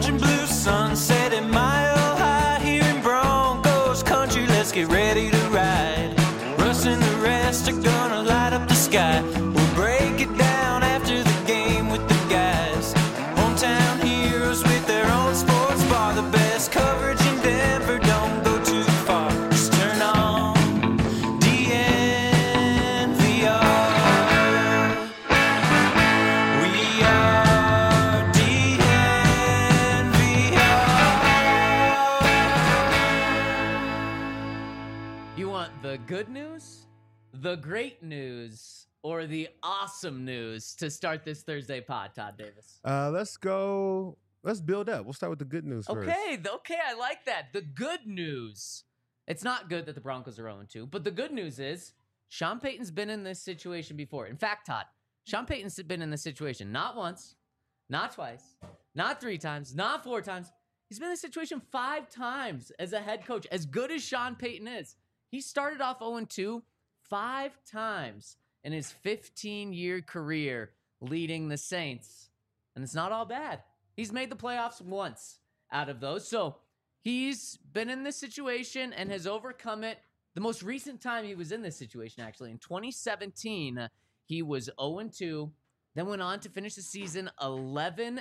orange and blue sunset at Mile High here in Broncos country. Let's get ready to ride. Russ and the rest are gonna light up the sky. We'll break it down after the game with the guys. Hometown heroes with their own sports bar. The best coverage in Denver, don't go too far. Just turn on DNVR. We are DNVR. You want the good news, the great news, or the awesome news to start this Thursday pod, Todd Davis? Let's go. Let's build up. We'll start with the good news first. Okay, I like that. The good news. It's not good that the Broncos are 0-2, but the good news is Sean Payton's been in this situation before. In fact, Todd, Sean Payton's been in this situation not once, not twice, not 3 times, not 4 times. He's been in this situation 5 times as a head coach. As good as Sean Payton is, he started off 0-2 5 times in his 15-year career leading the Saints. And it's not all bad. He's made the playoffs once out of those. So he's been in this situation and has overcome it. The most recent time he was in this situation, actually, in 2017, he was 0-2, then went on to finish the season 11-5,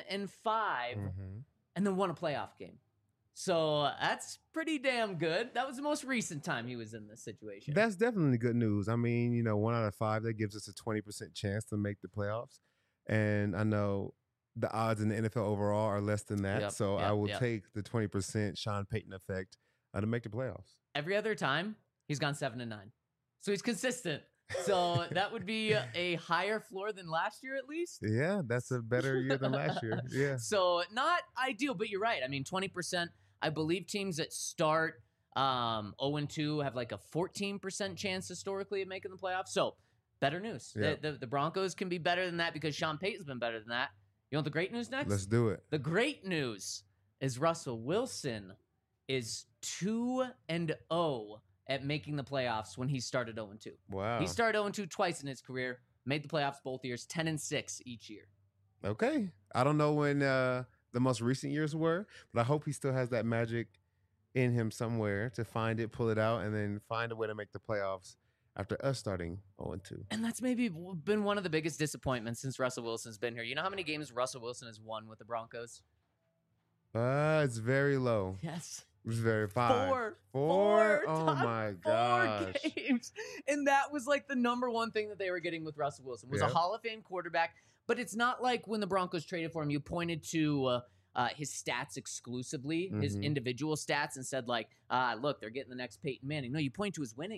and then won a playoff game. So that's pretty damn good. That was the most recent time he was in this situation. That's definitely good news. I mean, 1 out of 5, that gives us a 20% chance to make the playoffs. And I know the odds in the NFL overall are less than that. So I will take the 20% Sean Payton effect to make the playoffs. Every other time, he's gone 7-9. So he's consistent. So that would be a higher floor than last year, at least. Yeah, that's a better year than last year. Yeah. So not ideal, but you're right. I mean, 20%. I believe teams that start 0-2 have like a 14% chance historically of making the playoffs. So better news. Yeah. The Broncos can be better than that because Sean Payton's been better than that. You want the great news next? Let's do it. The great news is Russell Wilson is 2-0 at making the playoffs when he started 0-2. Wow. He started 0-2 twice in his career, made the playoffs both years, 10-6 each year. Okay. I don't know when the most recent years were, but I hope he still has that magic in him somewhere to find it, pull it out, and then find a way to make the playoffs after us starting 0-2. And that's maybe been one of the biggest disappointments since Russell Wilson's been here. You know how many games Russell Wilson has won with the Broncos? It's very low. Yes. It's very 5. 4. Oh Todd, my 4 gosh. games. And that was like the number one thing that they were getting with Russell Wilson was a Hall of Fame quarterback. But it's not like when the Broncos traded for him, you pointed to his stats exclusively, his individual stats, and said like, look, they're getting the next Peyton Manning. No, you point to his winning.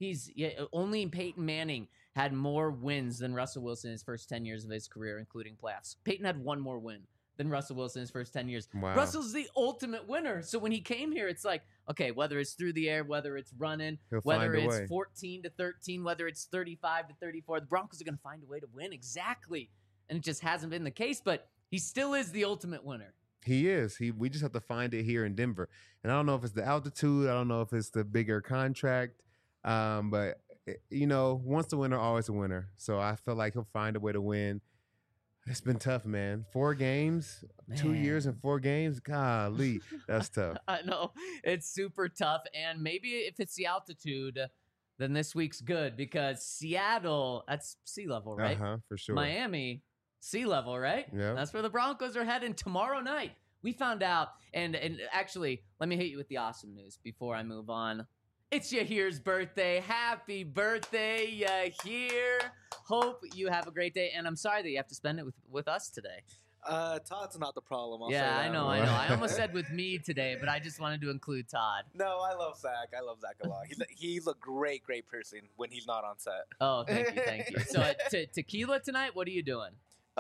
Only Peyton Manning had more wins than Russell Wilson in his first 10 years of his career, including playoffs. Peyton had 1 more win than Russell Wilson in his first 10 years. Wow. Russell's the ultimate winner. So when he came here, it's like, okay, whether it's through the air, whether it's running, whether it's 14-13, whether it's 35-34, the Broncos are going to find a way to win. Exactly. And it just hasn't been the case, but he still is the ultimate winner. He is. We just have to find it here in Denver. And I don't know if it's the altitude. I don't know if it's the bigger contract. But, once a winner, always a winner. So I feel like he'll find a way to win. It's been tough, man. 4 games, 2 years and 4 games. Golly, that's tough. I know. It's super tough. And maybe if it's the altitude, then this week's good because Seattle, that's sea level, right? For sure. Miami, sea level, right? Yeah. That's where the Broncos are heading tomorrow night. We found out, and actually, let me hit you with the awesome news before I move on. It's Yahir's birthday. Happy birthday, Yahir. Hope you have a great day, and I'm sorry that you have to spend it with us today. Todd's not the problem. I'll say Yeah, that. I know. I almost said with me today, but I just wanted to include Todd. No, I love Zach. I love Zach a lot. He's a great person when he's not on set. Oh, thank you. So tequila tonight, what are you doing?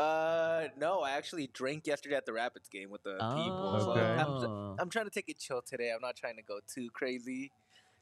No, I actually drank yesterday at the Rapids game with the people. So Okay. I'm trying to take it chill today. I'm not trying to go too crazy.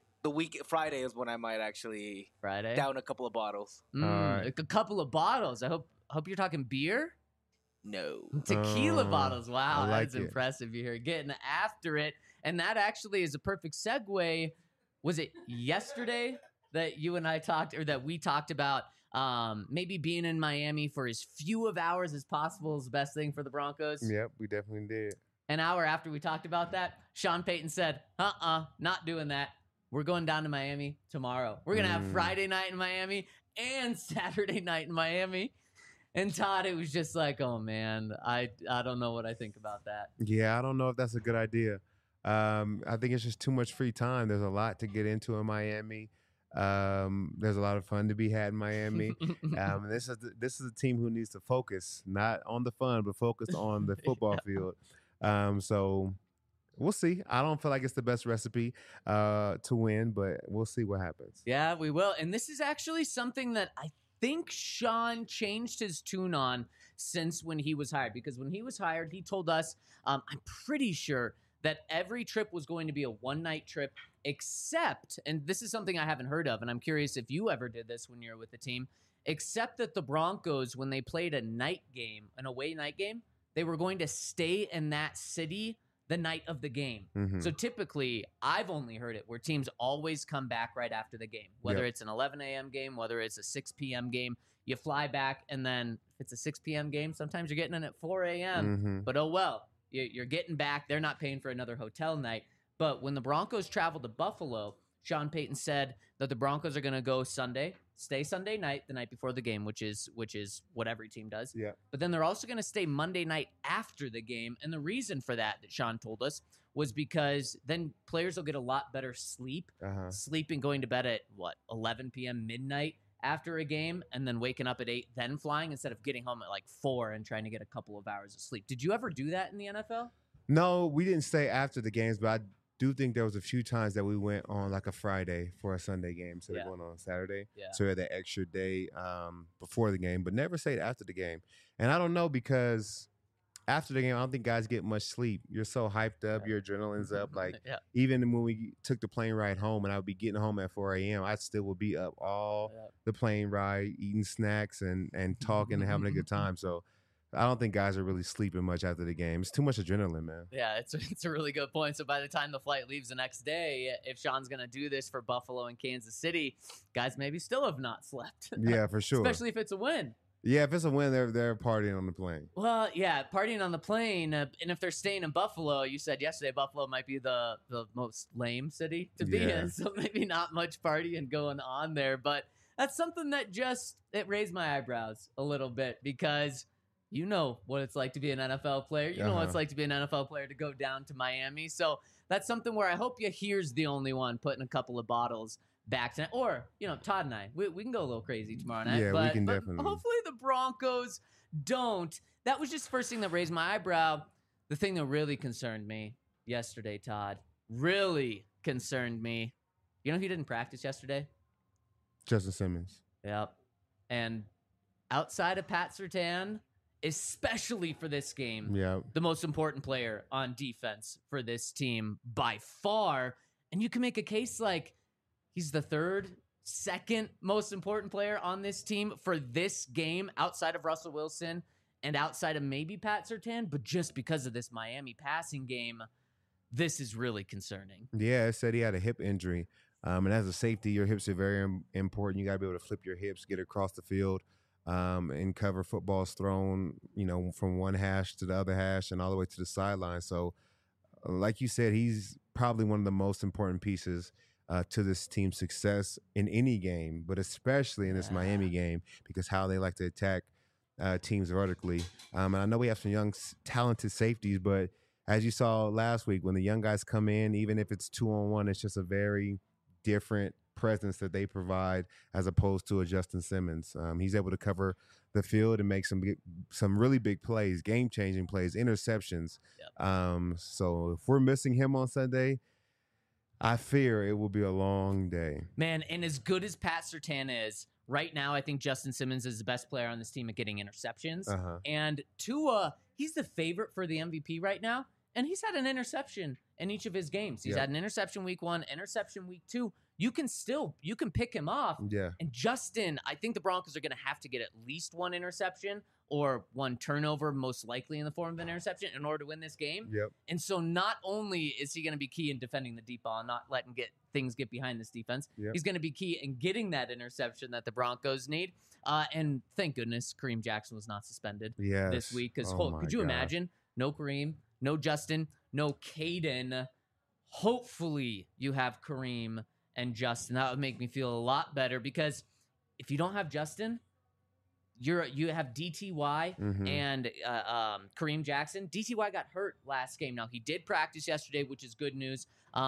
Friday is when I might actually down a couple of bottles. Right. A couple of bottles. I hope you're talking beer. No. Tequila bottles. Wow, I like that's it. impressive. You're getting after it. And that actually is a perfect segue. Was it yesterday that you and I talked, or that we talked about maybe being in Miami for as few of hours as possible is the best thing for the Broncos? Yep, we definitely did. An hour after we talked about that, Sean Payton said, not doing that. We're going down to Miami tomorrow. We're going to have Friday night in Miami and Saturday night in Miami. And Todd, it was just like, oh, man, I don't know what I think about that. Yeah, I don't know if that's a good idea. I think it's just too much free time. There's a lot to get into in Miami. There's a lot of fun to be had in Miami. This is a team who needs to focus, not on the fun, but focus on the football field. So we'll see. I don't feel like it's the best recipe to win, but we'll see what happens. Yeah, we will. And this is actually something that I think Sean changed his tune on since when he was hired. Because when he was hired, he told us, I'm pretty sure that every trip was going to be a one-night trip, except, and this is something I haven't heard of, and I'm curious if you ever did this when you were with the team, except that the Broncos, when they played a night game, an away night game, they were going to stay in that city the night of the game. Mm-hmm. So typically, I've only heard it where teams always come back right after the game, whether it's an 11 a.m. game, whether it's a 6 p.m. game. You fly back, and then if it's a 6 p.m. game, sometimes you're getting in at 4 a.m. Mm-hmm. But oh well. You're getting back. They're not paying for another hotel night. But when the Broncos traveled to Buffalo, Sean Payton said that the Broncos are going to go Sunday, stay Sunday night, the night before the game, which is what every team does. Yeah. But then they're also going to stay Monday night after the game. And the reason for that Sean told us was because then players will get a lot better sleep. Sleeping, going to bed at 11 p.m. midnight after a game, and then waking up at 8, then flying, instead of getting home at like 4 and trying to get a couple of hours of sleep. Did you ever do that in the NFL? No, we didn't stay after the games, but I do think there was a few times that we went on like a Friday for a Sunday game instead of going on Saturday. Yeah. So we had that extra day before the game, but never stayed after the game. And I don't know, because after the game, I don't think guys get much sleep. You're so hyped up, your adrenaline's up. Like even when we took the plane ride home, and I would be getting home at 4 a.m., I still would be up all the plane ride, eating snacks and talking and having a good time. So I don't think guys are really sleeping much after the game. It's too much adrenaline, man. Yeah, it's a really good point. So by the time the flight leaves the next day, if Sean's going to do this for Buffalo and Kansas City, guys maybe still have not slept. Yeah, for sure. Especially if it's a win. Yeah, if it's a win, they're partying on the plane. Well, yeah, partying on the plane. And if they're staying in Buffalo, you said yesterday Buffalo might be the most lame city to be in. So maybe not much partying going on there. But that's something that it raised my eyebrows a little bit, because you know what it's like to be an NFL player. You know what it's like to be an NFL player to go down to Miami. So that's something where I hope Yahir's the only one putting a couple of bottles back tonight. Or, Todd and I, we can go a little crazy tomorrow night. Yeah, we can definitely. Hopefully the Broncos don't. That was just the first thing that raised my eyebrow. The thing that really concerned me yesterday, Todd, really concerned me. You know who didn't practice yesterday? Justin Simmons. Yep. And outside of Pat Surtain, especially for this game, the most important player on defense for this team by far. And you can make a case like he's the second most important player on this team for this game, outside of Russell Wilson and outside of maybe Pat Surtain. But just because of this Miami passing game, this is really concerning. Yeah, it said he had a hip injury. And as a safety, your hips are very important. You got to be able to flip your hips, get across the field, and cover footballs thrown, from one hash to the other hash and all the way to the sideline. So, like you said, he's probably one of the most important pieces to this team's success in any game, but especially in this Miami game, because how they like to attack teams vertically. And I know we have some young, talented safeties, but as you saw last week, when the young guys come in, even if it's 2-on-1, it's just a very different presence that they provide as opposed to a Justin Simmons. He's able to cover the field and make some really big plays, game-changing plays, interceptions. So if we're missing him on Sunday, I fear it will be a long day. Man, and as good as Pat Surtain is, right now I think Justin Simmons is the best player on this team at getting interceptions. And Tua, he's the favorite for the MVP right now, and he's had an interception in each of his games. He's had an interception week 1, interception week 2. You can pick him off. Yeah. And Justin, I think the Broncos are going to have to get at least one interception or one turnover, most likely in the form of an interception, in order to win this game. Yep. And so not only is he going to be key in defending the deep ball and not letting things get behind this defense, he's going to be key in getting that interception that the Broncos need. And thank goodness Kareem Jackson was not suspended this week. Because could you imagine? No Kareem, No Justin, no Caden. Hopefully you have Kareem and Justin. That would make me feel a lot better, because if you don't have Justin, you have DTY and Kareem Jackson. DTY got hurt last game. Now, he did practice yesterday, which is good news.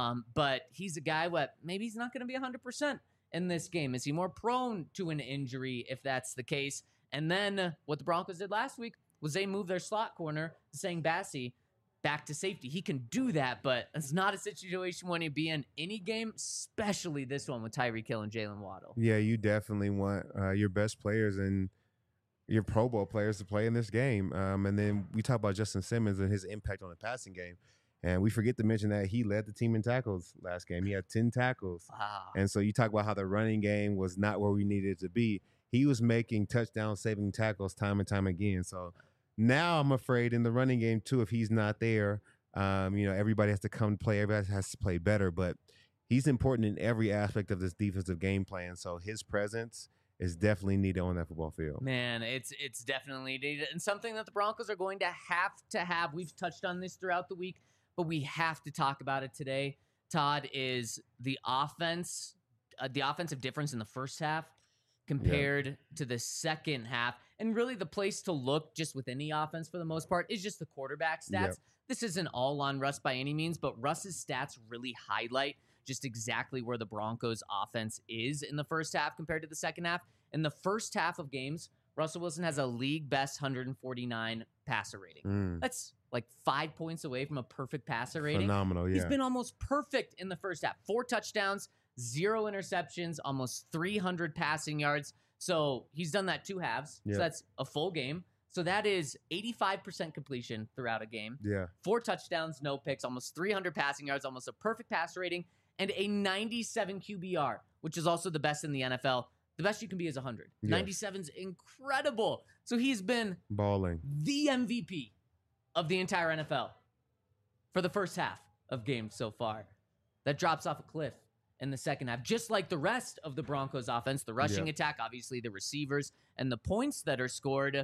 But he's a guy maybe he's not going to be 100% in this game. Is he more prone to an injury if that's the case? And then what the Broncos did last week was they moved their slot corner, Sang Bassi, back to safety. He can do that, but it's not a situation when he'd be in any game, especially this one with Tyreek Hill and Jalen Waddle. Yeah, you definitely want your best players and your Pro Bowl players to play in this game. And then we talk about Justin Simmons and his impact on the passing game. And we forget to mention that he led the team in tackles last game. He had 10 tackles. Wow. And so you talk about how the running game was not where we needed it to be. He was making touchdown-saving tackles time and time again. So now I'm afraid in the running game, too, if he's not there, everybody has to come play. Everybody has to play better. But he's important in every aspect of this defensive game plan. So his presence is definitely needed on that football field. Man, it's definitely needed. And something that the Broncos are going to have. We've touched on this throughout the week, but we have to talk about it today, Todd, is the offense, the offensive difference in the first half compared to the second half. And really the place to look just with any offense for the most part is just the quarterback stats. Yep. This isn't all on Russ by any means, but Russ's stats really highlight just exactly where the Broncos offense is in the first half compared to the second half. In the first half of games, Russell Wilson has a league best 149 passer rating. That's like 5 points away from a perfect passer rating. Phenomenal, yeah. He's been almost perfect in the first half. 4 touchdowns, 0 interceptions, almost 300 passing yards. So he's done that 2 halves. Yep. So that's a full game. So that is 85% completion throughout a game. Yeah. 4 touchdowns, no picks, almost 300 passing yards, almost a perfect passer rating, and a 97 QBR, which is also the best in the NFL. The best you can be is 100. Yes. 97's incredible. So he's been balling, the MVP of the entire NFL for the first half of games so far. That drops off a cliff in the second half, just like the rest of the Broncos offense, the rushing attack, obviously the receivers, and the points that are scored.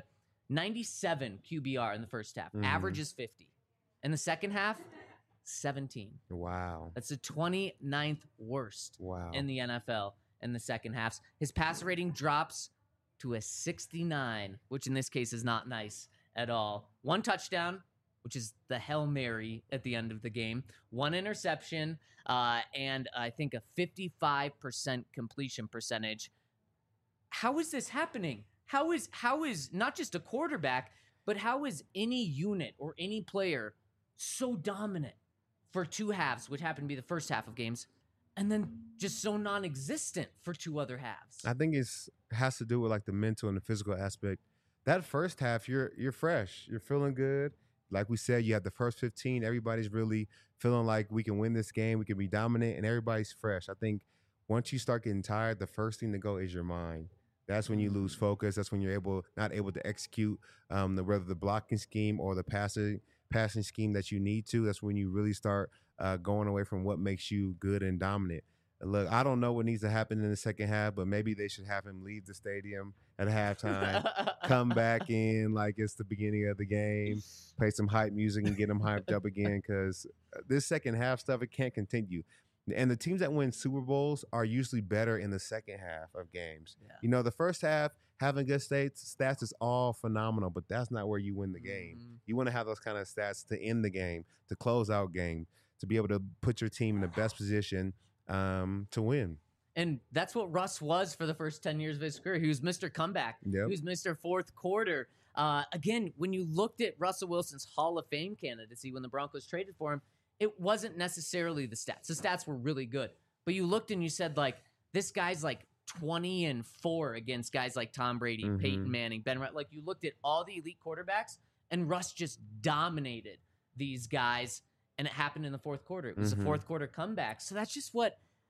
97 QBR in the first half. Average is 50. In the second half, 17. Wow. That's the 29th worst in the NFL in the second halves. His pass rating drops to a 69, which in this case is not nice at all. 1 touchdown, which is the Hail Mary at the end of the game. 1 interception, and I think a 55% completion percentage. How is this happening? How is not just a quarterback, but how is any unit or any player so dominant for 2 halves, which happened to be the first half of games, and then just so non-existent for 2 other halves? I think it has to do with like the mental and the physical aspect. That first half, you're fresh, you're feeling good. Like we said, you have the first 15. Everybody's really feeling like we can win this game, we can be dominant, and everybody's fresh. I think once you start getting tired, the first thing to go is your mind. That's when you lose focus. That's when you're not able to execute whether the blocking scheme or the passing scheme that you need to. That's when you really start going away from what makes you good and dominant. Look, I don't know what needs to happen in the second half, but maybe they should have him leave the stadium at halftime, come back in like it's the beginning of the game, play some hype music and get him hyped up again, because this second half stuff, it can't continue. And the teams that win Super Bowls are usually better in the second half of games. Yeah. You know, the first half, having good stats is all phenomenal, but that's not where you win the game. You want to have those kind of stats to end the game, to close out game, to be able to put your team in the best position to win. And that's what Russ was for the first 10 years of his career. He was Mr. Comeback. Yep. He was Mr. Fourth Quarter. Again, when you looked at Russell Wilson's Hall of Fame candidacy when the Broncos traded for him, it wasn't necessarily the stats. The stats were really good. But you looked and you said, like, this guy's like 20-4 against guys like Tom Brady, Peyton Manning, Ben Wright. Like, you looked at all the elite quarterbacks, and Russ just dominated these guys, and it happened in the fourth quarter. It was a fourth quarter comeback. So that's just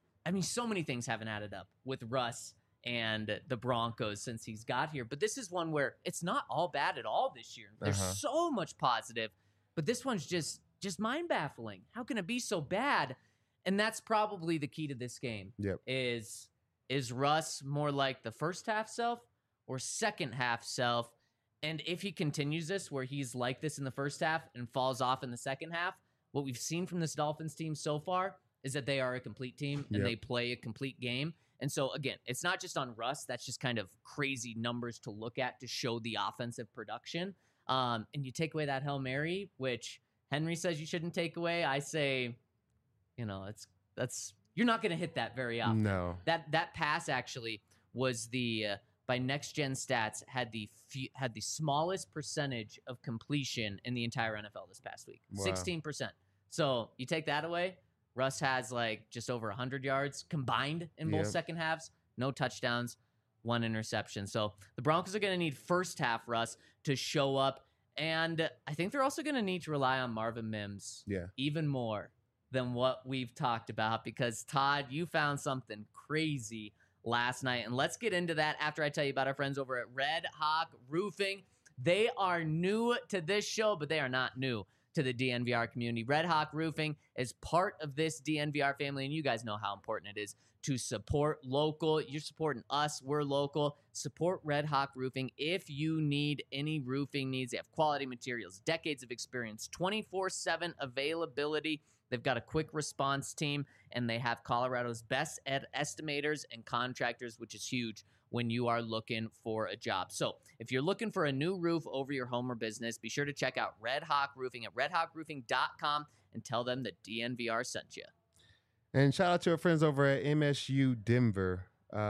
so many things haven't added up with Russ and the Broncos since he's got here. But this is one where it's not all bad at all this year. There's so much positive, but this one's just mind-baffling. How can it be so bad? And that's probably the key to this game. Yep. Is Russ more like the first half self or second half self? And if he continues this, where he's like this in the first half and falls off in the second half, what we've seen from this Dolphins team so far is that they are a complete team and they play a complete game. And so, again, it's not just on Russ. That's just kind of crazy numbers to look at to show the offensive production. And you take away that Hail Mary, which Henry says you shouldn't take away. I say, that's you're not going to hit that very often. No. That pass actually was by Next Gen Stats had the smallest percentage of completion in the entire NFL this past week. Wow. 16%. So you take that away, Russ has like just over 100 yards combined in both second halves, no touchdowns, 1 interception. So the Broncos are going to need first half Russ to show up. And I think they're also going to need to rely on Marvin Mims even more than what we've talked about, because Todd, you found something crazy last night. And let's get into that after I tell you about our friends over at Red Hawk Roofing. They are new to this show, but they are not new to the DNVR community. Red Hawk Roofing is part of this DNVR family, and you guys know how important it is to support local. You're supporting us. We're local. Support Red Hawk Roofing. If you need any roofing needs, they have quality materials, decades of experience, 24/7 availability. They've got a quick response team, and they have Colorado's best estimators and contractors, which is huge when you are looking for a job. So if you're looking for a new roof over your home or business, be sure to check out Red Hawk Roofing at redhawkroofing.com and tell them that DNVR sent you. And shout out to our friends over at MSU Denver.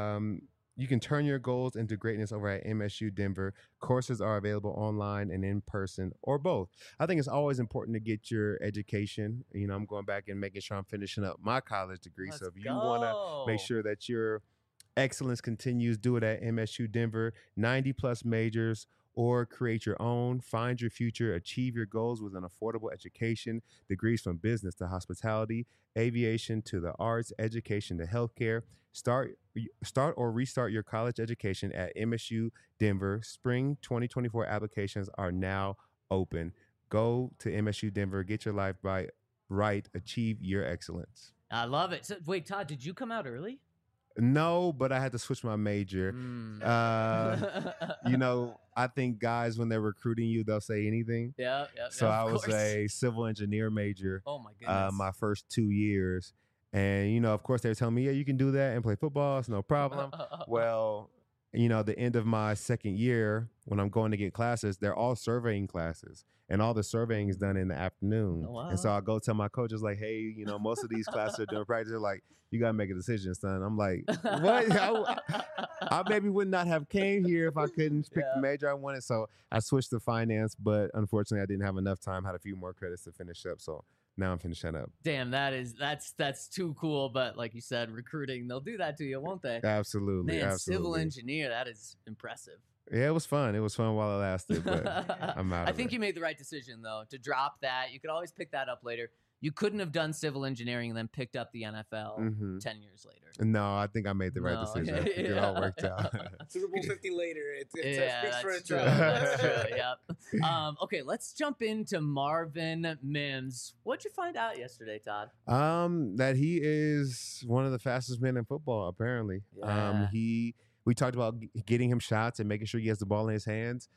You can turn your goals into greatness over at MSU Denver. Courses are available online and in person, or both. I think it's always important to get your education. I'm going back and making sure I'm finishing up my college degree. So if you want to make sure that your excellence continues, do it at MSU Denver. 90+ majors, or create your own. Find your future, achieve your goals with an affordable education. Degrees from business to hospitality, aviation to the arts, education to healthcare. Start or restart your college education at MSU Denver. Spring 2024 applications are now open. Go to MSU Denver, get your life right, achieve your excellence. I love it. So, wait, Todd, did you come out early? No, but I had to switch my major. I think guys, when they're recruiting you, they'll say anything. So I was a civil engineer major. Oh my goodness. My first 2 years. And, of course, they were telling me, yeah, you can do that and play football. It's no problem. Well, the end of my second year, when I'm going to get classes, they're all surveying classes. And all the surveying is done in the afternoon. Oh, wow. And so I go tell my coaches, like, hey, most of these classes are doing practice. They're like, you got to make a decision, son. I'm like, what? I maybe would not have came here if I couldn't pick the major I wanted. So I switched to finance, but unfortunately I didn't have enough time, had a few more credits to finish up. So now I'm finishing up. Damn, that's too cool. But like you said, recruiting, they'll do that to you, won't they? Absolutely. Man, absolutely. Civil engineer, that is impressive. Yeah, it was fun. It was fun while it lasted, but I'm out. I think you made the right decision, though, to drop that. You could always pick that up later. You couldn't have done civil engineering and then picked up the NFL 10 years later. No, I think I made the right decision. I think it all worked out. Super Bowl 50 later. It speaks for true. itself. That's true. Yep. Okay, let's jump into Marvin Mims. What'd you find out yesterday, Todd? That he is one of the fastest men in football, apparently. Yeah. We talked about getting him shots and making sure he has the ball in his hands.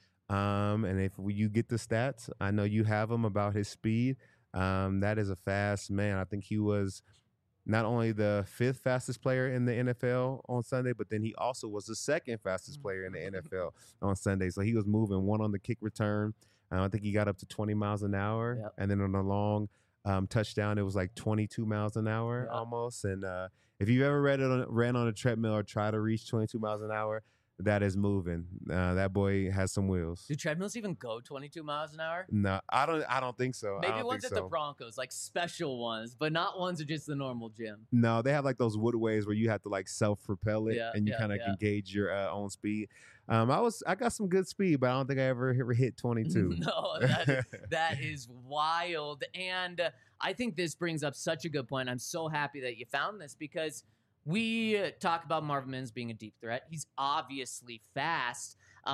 And if you get the stats, I know you have them about his speed. That is a fast man. I think he was not only the 5th fastest player in the NFL on Sunday, but then he also was the 2nd fastest player in the NFL on Sunday. So he was moving, one on the kick return. I think he got up to 20 miles an hour. Yep. And then on a long touchdown, it was like 22 miles an hour almost. And if you've ever ran on a treadmill or try to reach 22 miles an hour, that is moving. That boy has some wheels. Do treadmills even go 22 miles an hour? No, I don't think so. Maybe ones at the Broncos, like special ones, but not ones at just the normal gym. No, they have like those woodways where you have to like self-propel it and you kind of can gauge your own speed. I got some good speed, but I don't think I ever hit 22. No, that is wild. And I think this brings up such a good point. I'm so happy that you found this, because we talk about Marvin Mims being a deep threat. He's obviously fast,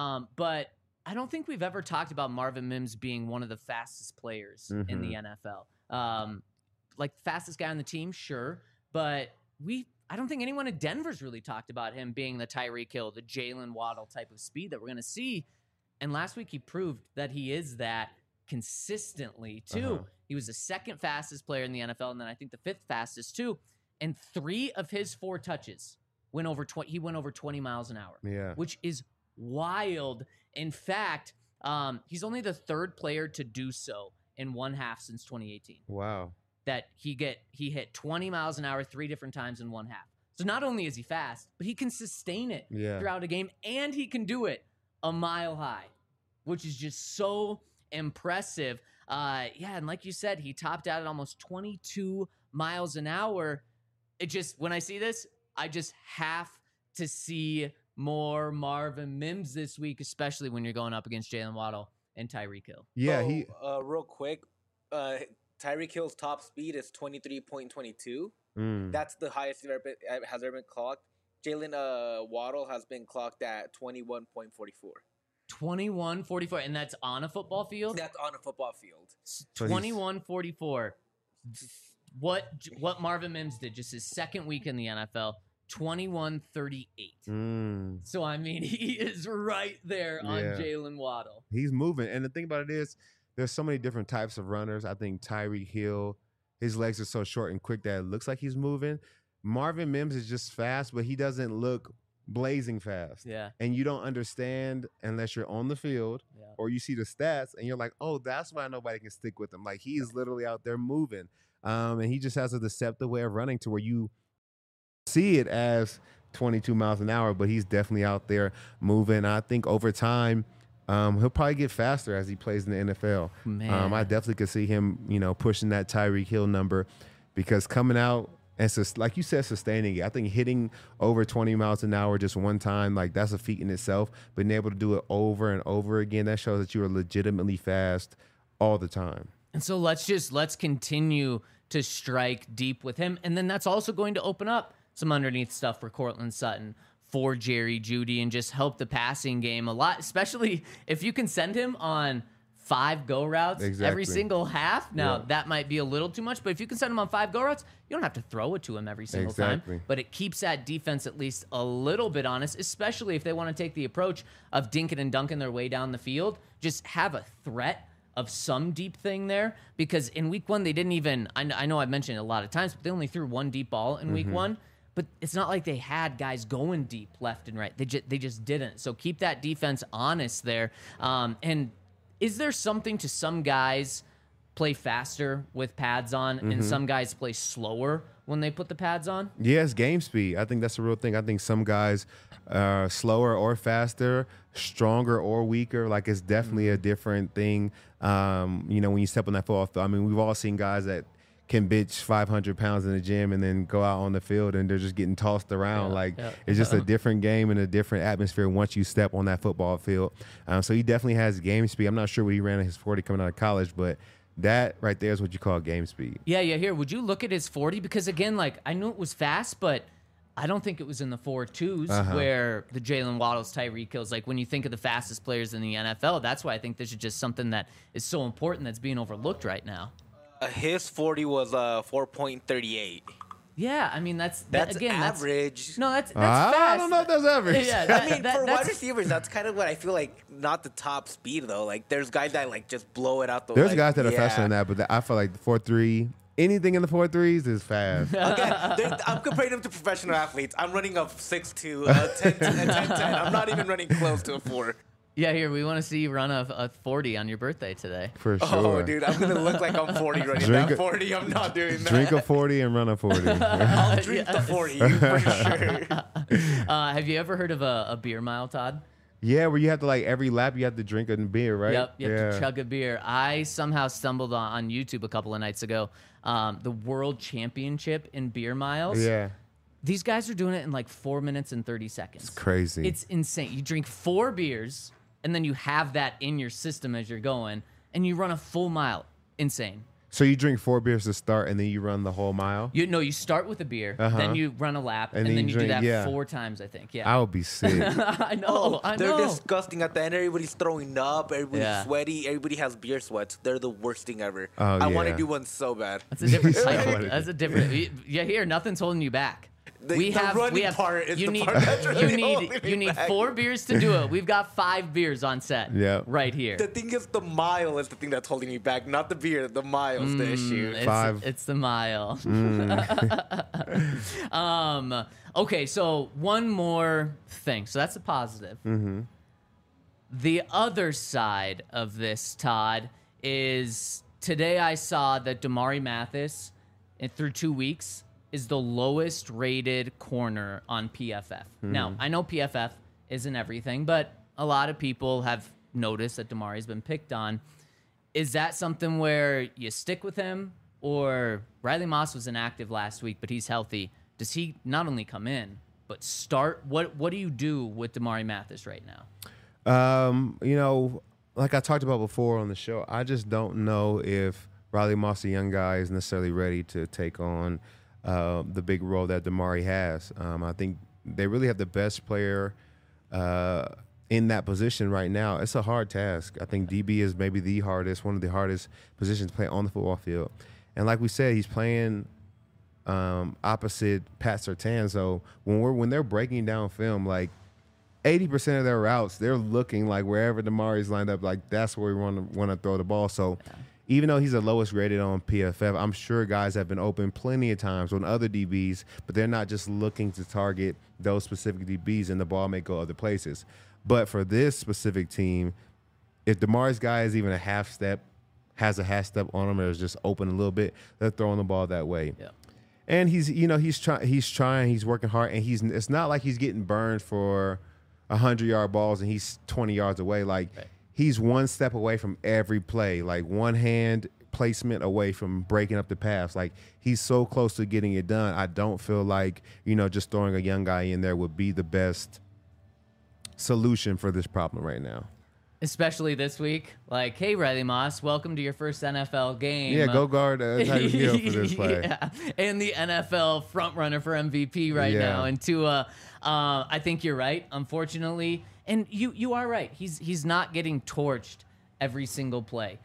but I don't think we've ever talked about Marvin Mims being one of the fastest players in the NFL. Like fastest guy on the team, sure, but I don't think anyone in Denver's really talked about him being the Tyreek Hill, the Jalen Waddle type of speed that we're going to see. And last week he proved that he is that consistently too. He was the second fastest player in the NFL, and then I think the fifth fastest too. And 3 of his 4 touches went over 20. He went over 20 miles an hour, which is wild. In fact, he's only the 3rd player to do so in one half since 2018. Wow. That he hit 20 miles an hour 3 different times in one half. So not only is he fast, but he can sustain it throughout a game, and he can do it a mile high, which is just so impressive. And like you said, he topped out at almost 22 miles an hour. It just, when I see this, I just have to see more Marvin Mims this week, especially when you're going up against Jalen Waddle and Tyreek Hill. Yeah, real quick, Tyreek Hill's top speed is 23.22. That's the highest has ever been clocked. Jalen Waddle has been clocked at 21.44. 21.44, and that's on a football field? That's on a football field. 21.44. What Marvin Mims did just his second week in the NFL, 21.38. So, I mean, he is right there on Jalen Waddle. He's moving. And the thing about it is, there's so many different types of runners. I think Tyreek Hill, his legs are so short and quick that it looks like he's moving. Marvin Mims is just fast, but he doesn't look blazing fast. Yeah. And you don't understand unless you're on the field or you see the stats and you're like, oh, that's why nobody can stick with him. Like, he is literally out there moving. And he just has a deceptive way of running to where you see it as 22 miles an hour, but he's definitely out there moving. I think over time, he'll probably get faster as he plays in the NFL. I definitely could see him, pushing that Tyreek Hill number, because coming out and like you said, sustaining it. I think hitting over 20 miles an hour just one time, like, that's a feat in itself. Being able to do it over and over again, that shows that you are legitimately fast all the time. And so let's continue to strike deep with him. And then that's also going to open up some underneath stuff for Courtland Sutton, for Jerry Jeudy, and just help the passing game a lot, especially if you can send him on 5 go routes every single half. Now, that might be a little too much, but if you can send him on 5 go routes, you don't have to throw it to him every single time. But it keeps that defense at least a little bit honest, especially if they want to take the approach of dinking and dunking their way down the field. Just have a threat of some deep thing there, because in week 1, they didn't even, I know I've mentioned it a lot of times, but they only threw 1 deep ball in week 1. But it's not like they had guys going deep left and right. They just didn't. So keep that defense honest there. And is there something to some guys play faster with pads on and some guys play slower when they put the pads on? Yeah, it's game speed. I think that's a real thing. I think some guys are slower or faster, stronger or weaker. Like, it's definitely a different thing. When you step on that football field. I mean, we've all seen guys that can bitch 500 pounds in the gym and then go out on the field and they're just getting tossed around. It's just a different game and a different atmosphere once you step on that football field. So he definitely has game speed. I'm not sure what he ran in his 40 coming out of college, but that right there is what you call game speed. Yeah. Here, would you look at his 40? Because, again, like, I knew it was fast, but I don't think it was in the 4.2s where the Jalen Waddles, Tyreek Hills, like, when you think of the fastest players in the NFL, that's why I think this is just something that is so important that's being overlooked right now. His 40 was 4.38. Yeah, I mean, that's again, average. That's fast. I don't know if that's average. Yeah, I mean, for wide receivers, that's kind of what I feel like. Not the top speed though. Like, there's guys that like just blow it out the. There's guys that are faster than that, but I feel like the 4.3. Anything in the 4.3s is fast. Okay, I'm comparing them to professional athletes. I'm running a 6.2, 10, I'm not even running close to a 4. Yeah, here, we want to see you run a 40 on your birthday today. For sure. Oh, dude, I'm going to look like I'm 40 running that 40. I'm not doing that. Drink a 40 and run a 40. I'll drink the 40 for sure. Have you ever heard of a beer mile, Todd? Yeah, where you have to, like, every lap you have to drink a beer, right? Yep, you have to chug a beer. I somehow stumbled on YouTube a couple of nights ago, the World Championship in beer miles. Yeah. These guys are doing it in like 4 minutes and 30 seconds. It's crazy. It's insane. You drink 4 beers, and then you have that in your system as you're going, and you run a full mile. Insane. So you drink 4 beers to start, and then you run the whole mile? You start with a beer, then you run a lap, and then you do that 4 times, I think. Yeah. I would be sick. I know. They're disgusting. At the end, everybody's throwing up. Everybody's sweaty. Everybody has beer sweats. They're the worst thing ever. I want to do one so bad. That's a different type. That's a different. Yeah, here, nothing's holding you back. We have part is you the need part that's really you holding need me you need back. 4 beers to do it. We've got 5 beers on set. Yeah. Right here. The thing is, the mile is the thing that's holding me back, not the beer. The mile's the issue. It's the mile. Mm. Okay, so one more thing. So that's a positive. Mm-hmm. The other side of this, Todd, is today I saw that Damari Mathis, through 2 weeks, is the lowest rated corner on PFF. Now, I know PFF isn't everything, but a lot of people have noticed that Damari's been picked on. Is that something where you stick with him? Or Riley Moss was inactive last week, but he's healthy. Does he not only come in, but start? What do you do with Damari Mathis right now? Like I talked about before on the show, I just don't know if Riley Moss, the young guy, is necessarily ready to take on the big role that Damari has. I think they really have the best player in that position right now. It's a hard task. I think DB is maybe one of the hardest positions to play on the football field. And like we said, he's playing opposite Pat Surtain. So when they're breaking down film, like 80% of their routes, they're looking like wherever Damari's lined up, like that's where we want to throw the ball. So even though he's the lowest rated on PFF, I'm sure guys have been open plenty of times on other DBs, but they're not just looking to target those specific DBs, and the ball may go other places. But for this specific team, if Damari's guy is even has a half step on him or is just open a little bit, they're throwing the ball that way. Yeah. And he's trying, he's working hard, and it's not like he's getting burned for 100-yard balls and he's 20 yards away. Like he's one step away from every play, like one hand placement away from breaking up the pass. Like he's so close to getting it done. I don't feel like, just throwing a young guy in there would be the best solution for this problem right now. Especially this week. Like, hey, Riley Moss, welcome to your first NFL game. Yeah, go guard Tyreek Hill for this play. Yeah, and the NFL front runner for MVP right Yeah. now. And Tua, I think you're right, unfortunately. And you are right. He's not getting torched every single play.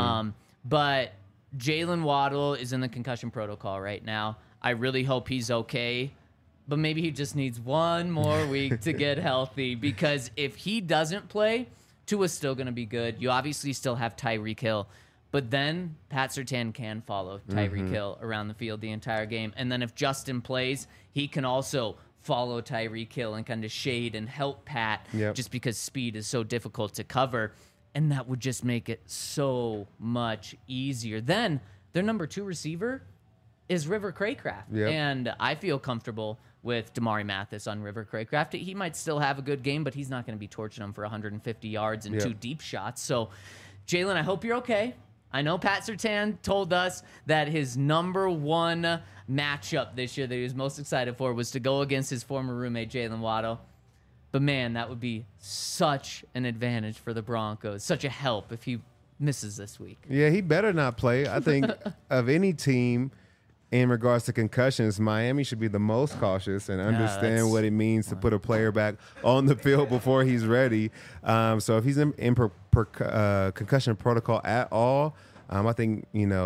But Jalen Waddle is in the concussion protocol right now. I really hope he's okay. But maybe he just needs one more week to get healthy, because if he doesn't play, Tua's still going to be good. You obviously still have Tyreek Hill, but then Pat Surtain can follow Tyreek Hill around the field the entire game. And then if Justin plays, he can also follow Tyreek Hill and kind of shade and help Pat, just because speed is so difficult to cover. And that would just make it so much easier. Then their number 2 receiver is River Craycraft. And I feel comfortable with Damari Mathis on River Craycraft. He might still have a good game, but he's not going to be torching him for 150 yards and 2 deep shots. So, Jalen, I hope you're okay. I know Pat Surtain told us that his number 1 matchup this year that he was most excited for was to go against his former roommate, Jalen Waddle. But, man, that would be such an advantage for the Broncos, such a help if he misses this week. Yeah, he better not play. I think of any team in regards to concussions, Miami should be the most cautious and understand what it means to put a player back on the field before he's ready. So if he's in concussion protocol at all, I think,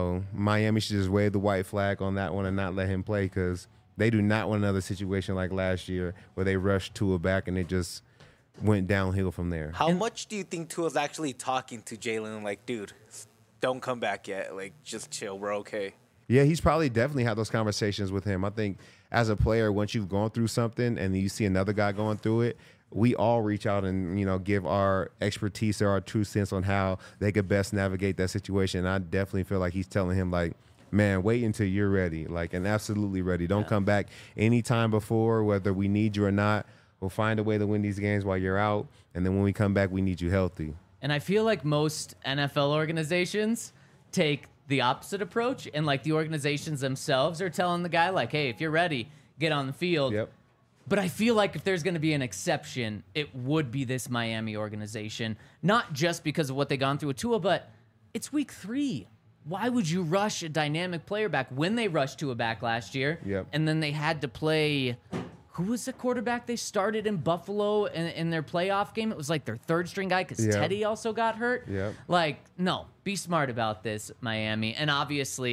Miami should just wave the white flag on that one and not let him play, because they do not want another situation like last year where they rushed Tua back and it just went downhill from there. How much do you think Tua's actually talking to Jalen? Like, dude, don't come back yet. Like, just chill. We're okay. Yeah, he's probably definitely had those conversations with him. I think as a player, once you've gone through something and you see another guy going through it, we all reach out and, give our expertise or our true sense on how they could best navigate that situation. And I definitely feel like he's telling him, like, man, wait until you're ready, like, and absolutely ready. Don't come back anytime before, whether we need you or not. We'll find a way to win these games while you're out. And then when we come back, we need you healthy. And I feel like most NFL organizations take the opposite approach, and like the organizations themselves are telling the guy, like, hey, if you're ready, get on the field. But I feel like if there's going to be an exception, it would be this Miami organization, not just because of what they gone through with Tua, but it's week 3. Why would you rush a dynamic player back when they rushed Tua back last year? And then they had to play, who was the quarterback they started in Buffalo in their playoff game? It was like their 3rd string guy, because Teddy also got hurt. Like, no, be smart about this, Miami. And obviously,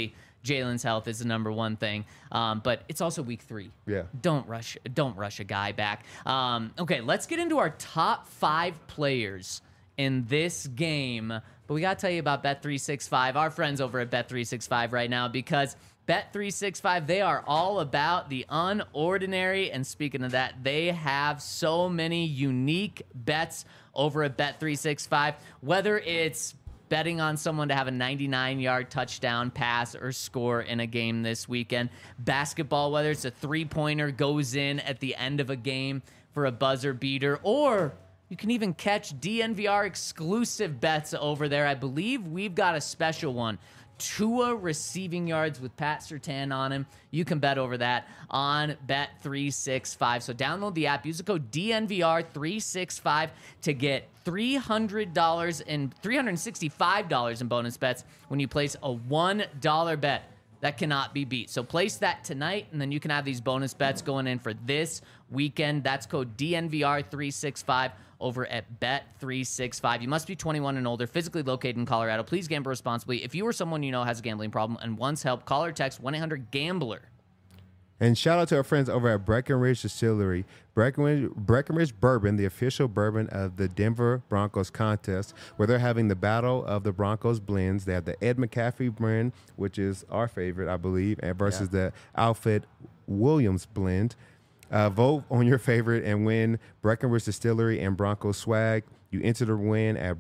Jalen's health is the number one thing. But it's also week 3. Yeah. Don't rush a guy back. Okay, let's get into our top 5 players in this game. But we got to tell you about Bet365, our friends over at Bet365 right now, because Bet365, they are all about the unordinary. And speaking of that, they have so many unique bets over at Bet365, whether it's betting on someone to have a 99-yard touchdown pass or score in a game this weekend. Basketball, whether it's a three-pointer goes in at the end of a game for a buzzer beater, or you can even catch DNVR exclusive bets over there. I believe we've got a special one. Tua receiving yards with Pat Surtain on him. You can bet over that on Bet365. So download the app, use the code DNVR365 to get $300 and $365 in bonus bets when you place a $1 bet. That cannot be beat. So place that tonight, and then you can have these bonus bets going in for this weekend. That's code DNVR365 over at Bet365. You must be 21 and older, physically located in Colorado. Please gamble responsibly. If you or someone you know has a gambling problem and wants help, call or text 1-800-GAMBLER. And shout out to our friends over at Breckenridge Distillery. Breckenridge Bourbon, the official bourbon of the Denver Broncos contest, where they're having the Battle of the Broncos blends. They have the Ed McCaffrey blend, which is our favorite, I believe, and versus the Alfred Williams blend. Vote on your favorite and win Breckenridge Distillery and Broncos swag. You enter the win at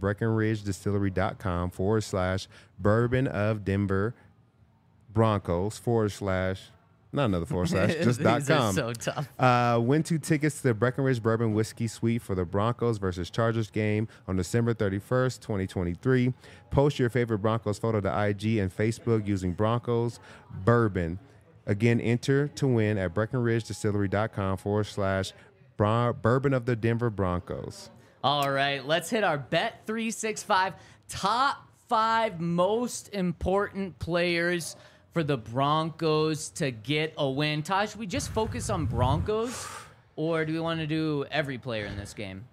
BreckenridgeDistillery.com/bourbon of Denver Broncos / not another / just .com. These are so tough. Win 2 tickets to the Breckenridge Bourbon Whiskey Suite for the Broncos versus Chargers game on December 31st, 2023. Post your favorite Broncos photo to IG and Facebook using Broncos Bourbon. Again, enter to win at BreckenridgeDistillery.com / bourbon of the Denver Broncos. All right, let's hit our Bet365 top 5 most important players for the Broncos to get a win. Taj, should we just focus on Broncos, or do we want to do every player in this game?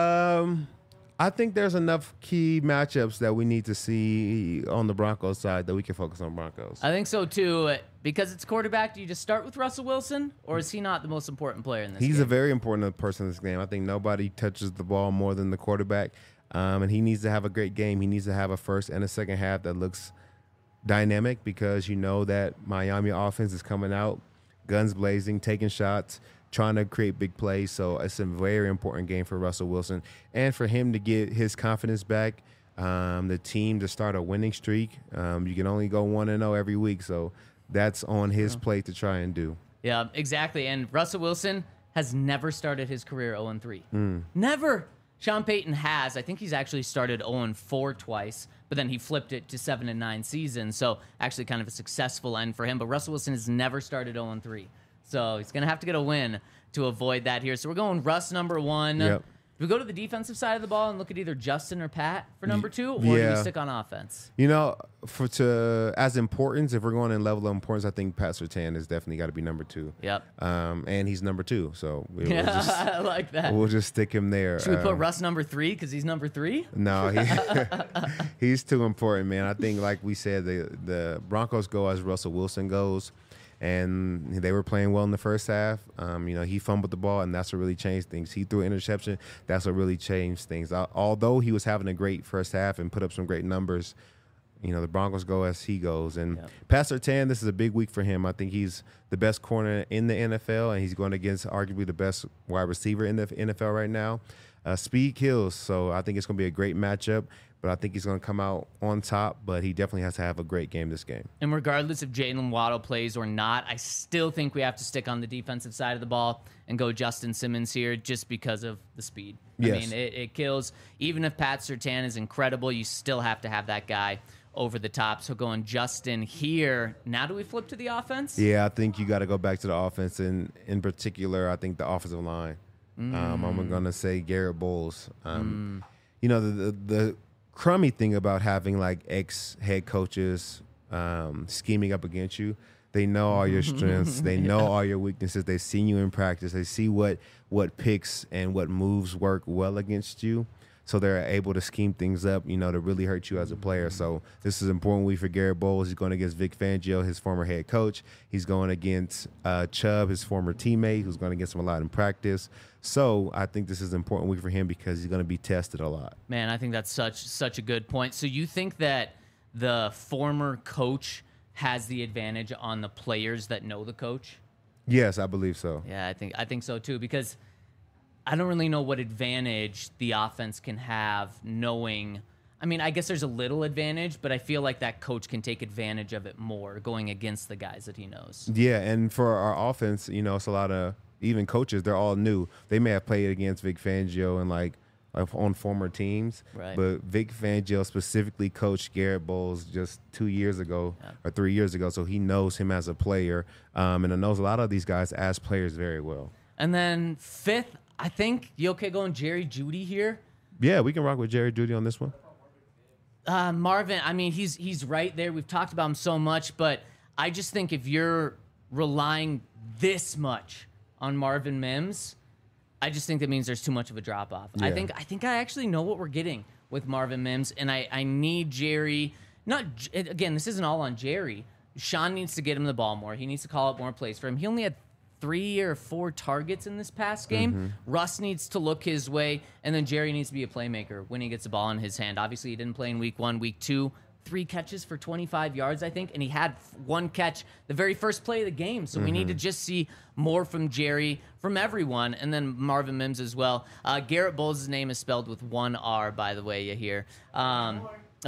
I think there's enough key matchups that we need to see on the Broncos side that we can focus on Broncos. I think so too. Because it's quarterback, do you just start with Russell Wilson, or is he not the most important player in this game? He's a very important person in this game. I think nobody touches the ball more than the quarterback, and he needs to have a great game. He needs to have a first and a second half that looks dynamic, because you know that Miami offense is coming out, guns blazing, taking shots, trying to create big plays. So it's a very important game for Russell Wilson, and for him to get his confidence back, the team to start a winning streak. You can only go 1-0 every week, so that's on his plate to try and do. Yeah, exactly. And Russell Wilson has never started his career 0-3. Never. Sean Payton has. I think he's actually started 0-4 twice, but then he flipped it to 7-9 seasons. So actually kind of a successful end for him. But Russell Wilson has never started 0-3. So he's going to have to get a win to avoid that here. So we're going Russ number 1. Yep. Do we go to the defensive side of the ball and look at either Justin or Pat for number 2, or do we stick on offense? You know, as importance, if we're going in level of importance, I think Pat Surtain has definitely got to be number 2. Yep. And he's number 2, so I like that. We'll just stick him there. Should we put Russ number 3 because he's number 3? No, he's too important, man. I think, like we said, the Broncos go as Russell Wilson goes. And they were playing well in the first half. He fumbled the ball, and that's what really changed things. He threw an interception. That's what really changed things. Although he was having a great first half and put up some great numbers, the Broncos go as he goes. And Pat Surtain, this is a big week for him. I think he's the best corner in the NFL, and he's going against arguably the best wide receiver in the NFL right now. Speed kills, so I think it's going to be a great matchup. But I think he's going to come out on top, but he definitely has to have a great game this game. And regardless if Jalen Waddle plays or not, I still think we have to stick on the defensive side of the ball and go Justin Simmons here just because of the speed. Yes. I mean, it kills. Even if Pat Surtain is incredible, you still have to have that guy over the top. So going Justin here. Now do we flip to the offense? Yeah, I think you got to go back to the offense. And in particular, I think the offensive line. I'm going to say Garrett Bowles. The crummy thing about having like ex-head coaches scheming up against you, they know all your strengths, they know all your weaknesses, they've seen you in practice, they see what picks and what moves work well against you. so they're able to scheme things up, you know, to really hurt you as a player. So this is an important week for Garrett Bowles. He's going against Vic Fangio, his former head coach. He's going against Chubb, his former teammate, who's going against him a lot in practice. So I think this is an important week for him because he's going to be tested a lot. Man, I think that's such a good point. So you think that the former coach has the advantage on the players that know the coach? Yes, I believe so. Yeah, I think so too, because I don't really know what advantage the offense can have knowing. I mean, I guess there's a little advantage, but I feel like that coach can take advantage of it more going against the guys that he knows. Yeah, and for our offense, you know, it's a lot of even coaches, they're all new. They may have played against Vic Fangio and like on former teams, right. But Vic Fangio specifically coached Garrett Bowles just 2 years ago or 3 years ago, so he knows him as a player, and he knows a lot of these guys as players very well. And then fifth, I think, you okay going Jerry Jeudy here? Yeah, we can rock with Jerry Jeudy on this one. Marvin, I mean, he's right there. We've talked about him so much, but I just think if you're relying this much on Marvin Mims, I just think that means there's too much of a drop-off. Yeah. I think I actually know what we're getting with Marvin Mims, and I need Jerry. Again, this isn't all on Jerry. Sean needs to get him the ball more. He needs to call up more plays for him. He only had 3 or 4 targets in this past game. Mm-hmm. Russ needs to look his way, and then Jerry needs to be a playmaker when he gets the ball in his hand. Obviously, he didn't play in week 1, week 2. 3 catches for 25 yards, I think, and he had 1 catch the very first play of the game. So we need to just see more from Jerry, from everyone, and then Marvin Mims as well. Garrett Bowles' name is spelled with 1 R, by the way, you hear. Not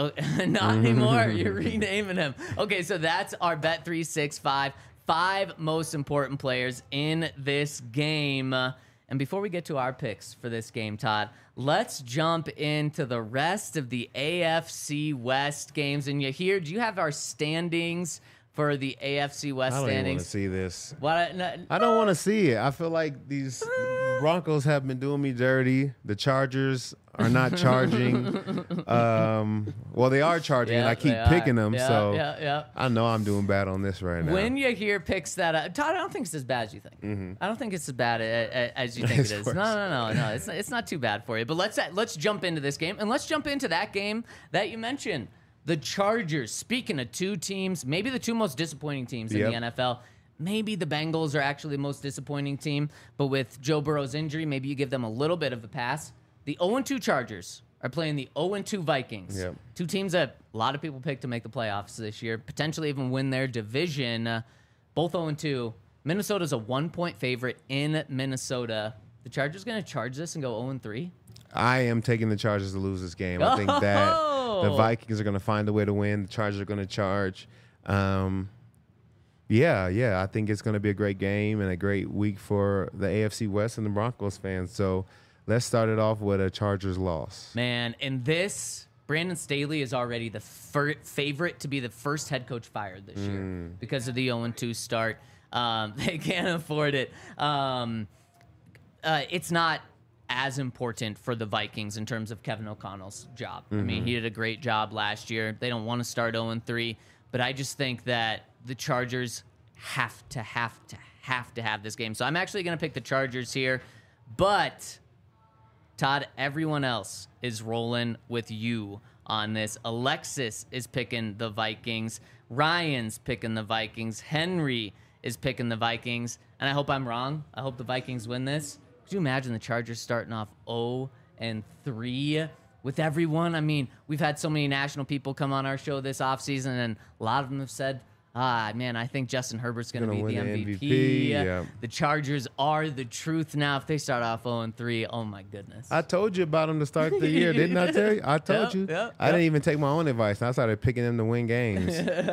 anymore. You're renaming him. Okay, so that's our Bet365. 5 most important players in this game. And before we get to our picks for this game, Todd, let's jump into the rest of the AFC West games. And do you have our standings for the AFC West I don't even want standings? to see this. What? I don't want to see it. I feel like these Broncos have been doing me dirty. The Chargers are not charging. Well, they are charging, and I keep picking them. So I know I'm doing bad on this right now. When you hear picks that, Todd, I don't think it's as bad as you think. I don't think it's as bad as you think it is. No. It's not too bad for you. But let's jump into this game, and let's jump into that game that you mentioned. The Chargers. Speaking of 2 teams, maybe the 2 most disappointing teams in the NFL. Maybe the Bengals are actually the most disappointing team, but with Joe Burrow's injury, maybe you give them a little bit of a pass. The 0-2 Chargers are playing the 0-2 Vikings. 2 teams that a lot of people picked to make the playoffs this year, potentially even win their division. Both 0-2. Minnesota's a 1-point favorite in Minnesota. The Chargers going to charge this and go 0-3? I am taking the Chargers to lose this game. I think that the Vikings are going to find a way to win. The Chargers are going to charge. Yeah, I think it's going to be a great game and a great week for the AFC West and the Broncos fans. So let's start it off with a Chargers loss. Man, in this, Brandon Staley is already the favorite to be the first head coach fired this year because of the 0-2 start. They can't afford it. It's not as important for the Vikings in terms of Kevin O'Connell's job. I mean, he did a great job last year. They don't want to start 0-3, but I just think that the Chargers have to have this game. So I'm actually going to pick the Chargers here, but Todd, everyone else is rolling with you on this. Alexis is picking the Vikings. Ryan's picking the Vikings. Henry is picking the Vikings. And I hope I'm wrong. I hope the Vikings win this. Could you imagine the Chargers starting off 0-3 with everyone? I mean, we've had so many national people come on our show this offseason, and a lot of them have said, man, I think Justin Herbert's going to be the MVP. Yeah. The Chargers are the truth now. If they start off 0-3, oh my goodness. I told you about them to start the year, didn't I tell you? I told you. I didn't even take my own advice. I started picking them to win games.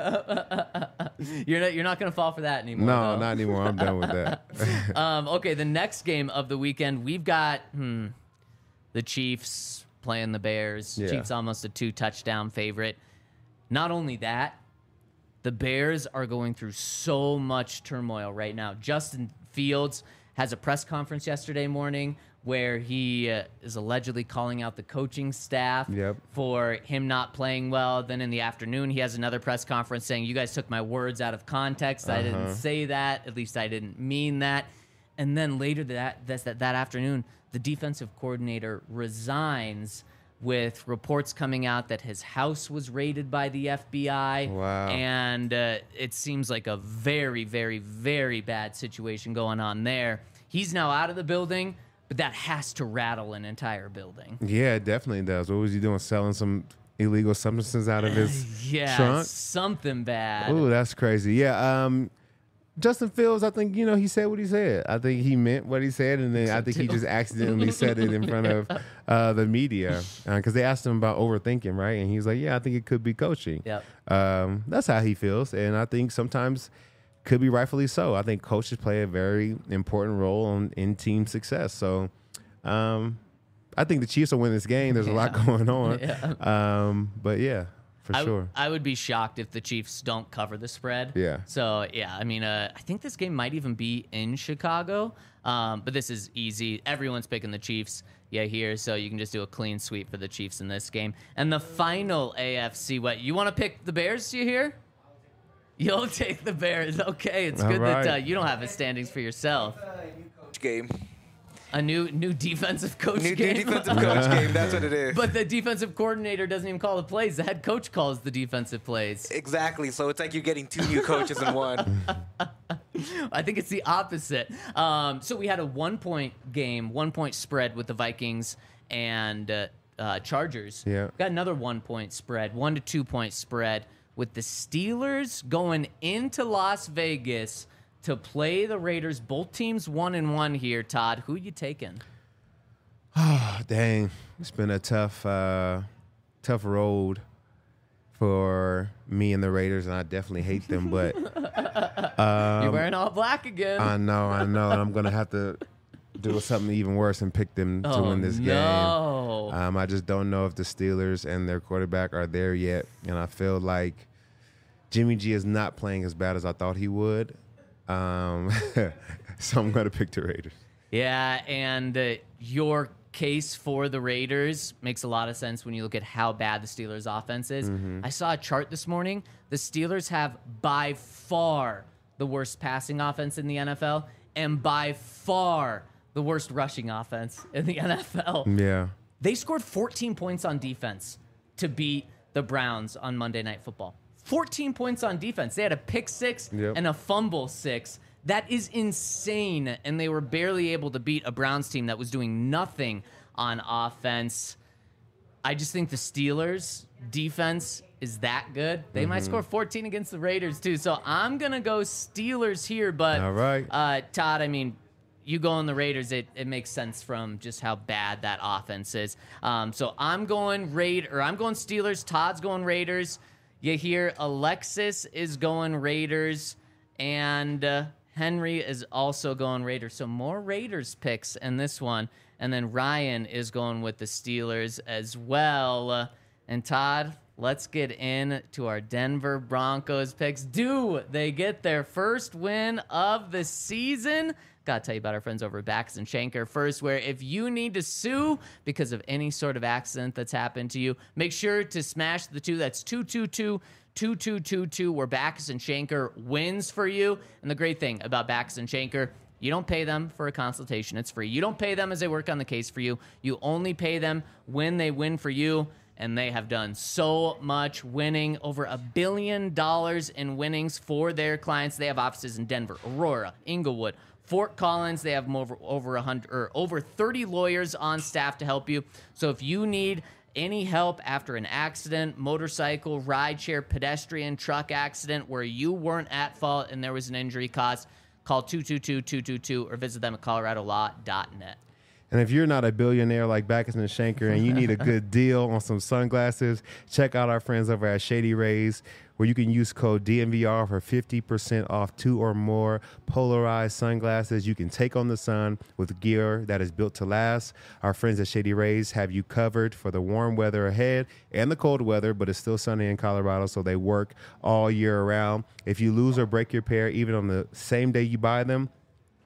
You're not going to fall for that anymore. No, though. not anymore. I'm done with that. Okay, the next game of the weekend, we've got the Chiefs playing the Bears. Yeah. Chiefs almost a 2-touchdown favorite. Not only that, the Bears are going through so much turmoil right now. Justin Fields has a press conference yesterday morning where he is allegedly calling out the coaching staff for him not playing well. Then in the afternoon, he has another press conference saying, you guys took my words out of context. I didn't say that. At least I didn't mean that. And then later that afternoon, the defensive coordinator resigns with reports coming out that his house was raided by the FBI. Wow. And it seems like a very, very, very bad situation going on there. He's now out of the building, but that has to rattle an entire building. Yeah, it definitely does. What was he doing? Selling some illegal substances out of his trunk? Something bad. Ooh, that's crazy. Yeah. Justin Fields, I think, he said what he said. I think he meant what he said, and then I think he just accidentally said it in front of the media because they asked him about overthinking, right? And he's like, yeah, I think it could be coaching. Yep. That's how he feels, and I think sometimes could be rightfully so. I think coaches play a very important role in team success. So I think the Chiefs will win this game. There's a lot going on. Yeah. But, yeah. For sure. I would be shocked if the Chiefs don't cover the spread. Yeah. So, yeah, I mean, I think this game might even be in Chicago. But this is easy. Everyone's picking the Chiefs here. So you can just do a clean sweep for the Chiefs in this game. And the final AFC, you want to pick the Bears, you hear? You'll take the Bears. Okay, it's good that you don't have the standings for yourself. Game. A new defensive coach game. New defensive coach game. That's what it is. But the defensive coordinator doesn't even call the plays. The head coach calls the defensive plays. Exactly. So it's like you're getting 2 new coaches in one. I think it's the opposite. So we had a 1-point game, 1-point spread with the Vikings and Chargers. Yeah. Got another 1-point spread, 1 to 2 point spread with the Steelers going into Las Vegas to play the Raiders. Both teams 1-1 here. Todd, who you taking? Oh, dang. It's been a tough road for me and the Raiders, and I definitely hate them. But you're wearing all black again. I know. And I'm going to have to do something even worse and pick them to win this game. I just don't know if the Steelers and their quarterback are there yet. And I feel like Jimmy G is not playing as bad as I thought he would. So I'm going to pick the Raiders. Yeah, and your case for the Raiders makes a lot of sense when you look at how bad the Steelers' offense is. I saw a chart this morning. The Steelers have by far the worst passing offense in the NFL and by far the worst rushing offense in the NFL. Yeah. They scored 14 points on defense to beat the Browns on Monday Night Football. 14 points on defense. They had a pick 6 and a fumble 6. That is insane. And they were barely able to beat a Browns team that was doing nothing on offense. I just think the Steelers' defense is that good. They might score 14 against the Raiders, too. So I'm going to go Steelers here. But, all right. Todd, I mean, you go on the Raiders, it makes sense from just how bad that offense is. So I'm going Steelers. Todd's going Raiders. You hear Alexis is going Raiders, and Henry is also going Raiders. So more Raiders picks in this one. And then Ryan is going with the Steelers as well. And Todd, let's get into our Denver Broncos picks. Do they get their first win of the season? Gotta tell you about our friends over at Backus and Schenker first, where if you need to sue because of any sort of accident that's happened to you, make sure to smash the 2. That's 222-2222, where Backus and Schenker wins for you. And the great thing about Backus and Schenker, you don't pay them for a consultation. It's free. You don't pay them as they work on the case for you. You only pay them when they win for you. And they have done so much winning, over $1 billion in winnings for their clients. They have offices in Denver, Aurora, Inglewood, Fort Collins. They have over 30 lawyers on staff to help you. So if you need any help after an accident, motorcycle, rideshare, pedestrian, truck accident where you weren't at fault and there was an injury caused, call 222-222 or visit them at coloradolaw.net. And if you're not a billionaire like Backus and Schenker and you need a good deal on some sunglasses, check out our friends over at Shady Rays, where you can use code DNVR for 50% off 2 or more polarized sunglasses you can take on the sun with gear that is built to last. Our friends at Shady Rays have you covered for the warm weather ahead and the cold weather, but it's still sunny in Colorado, so they work all year round. If you lose or break your pair, even on the same day you buy them,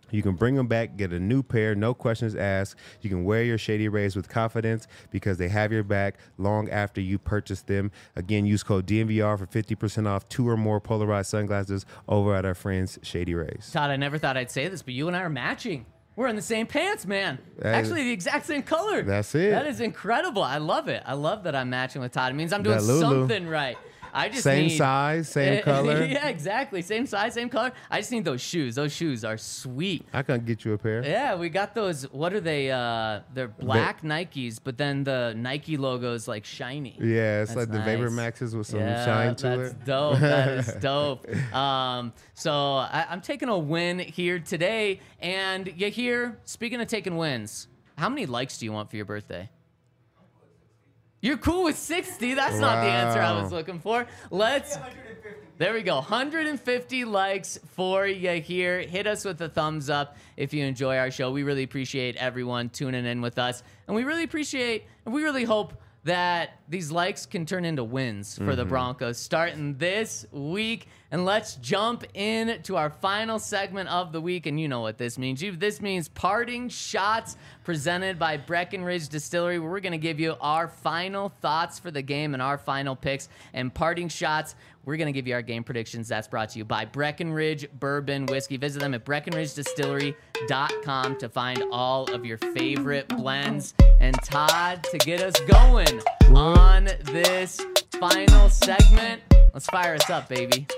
You can bring them back, get a new pair, no questions asked. You can wear your Shady Rays with confidence because they have your back long after you purchase them. Again, use code DNVR for 50% off 2 or more polarized sunglasses over at our friends Shady Rays. Todd, I never thought I'd say this, but you and I are matching. We're in the same pants, man. Actually, the exact same color. That's it. That is incredible. I love it. I love that I'm matching with Todd. It means I'm doing That Lulu. something right. I just Same need, size, same color. Yeah, exactly. Same size, same color. I just need those shoes. Those shoes are sweet. I can get you a pair. Yeah, we got those. What are they? They're black Nikes, but then the Nike logo is like shiny. Yeah, it's That's like the Vapor nice. Maxes with some Yeah, shine to that's it. dope. That is dope. So I'm taking a win here today. And you hear, speaking of taking wins, how many likes do you want for your birthday? You're cool with 60. That's not the answer I was Wow. looking for. There we go. 150 likes for you here. Hit us with a thumbs up if you enjoy our show. We really appreciate everyone tuning in with us. And we really appreciate, and we really hope that these likes can turn into wins for the Broncos starting this week. And let's jump into our final segment of the week. And you know what this means. This means parting shots presented by Breckenridge Distillery, where we're going to give you our final thoughts for the game and our final picks. And parting shots, we're going to give you our game predictions. That's brought to you by Breckenridge Bourbon Whiskey. Visit them at BreckenridgeDistillery.com to find all of your favorite blends. And Todd, to get us going on this final segment, let's fire us up, baby.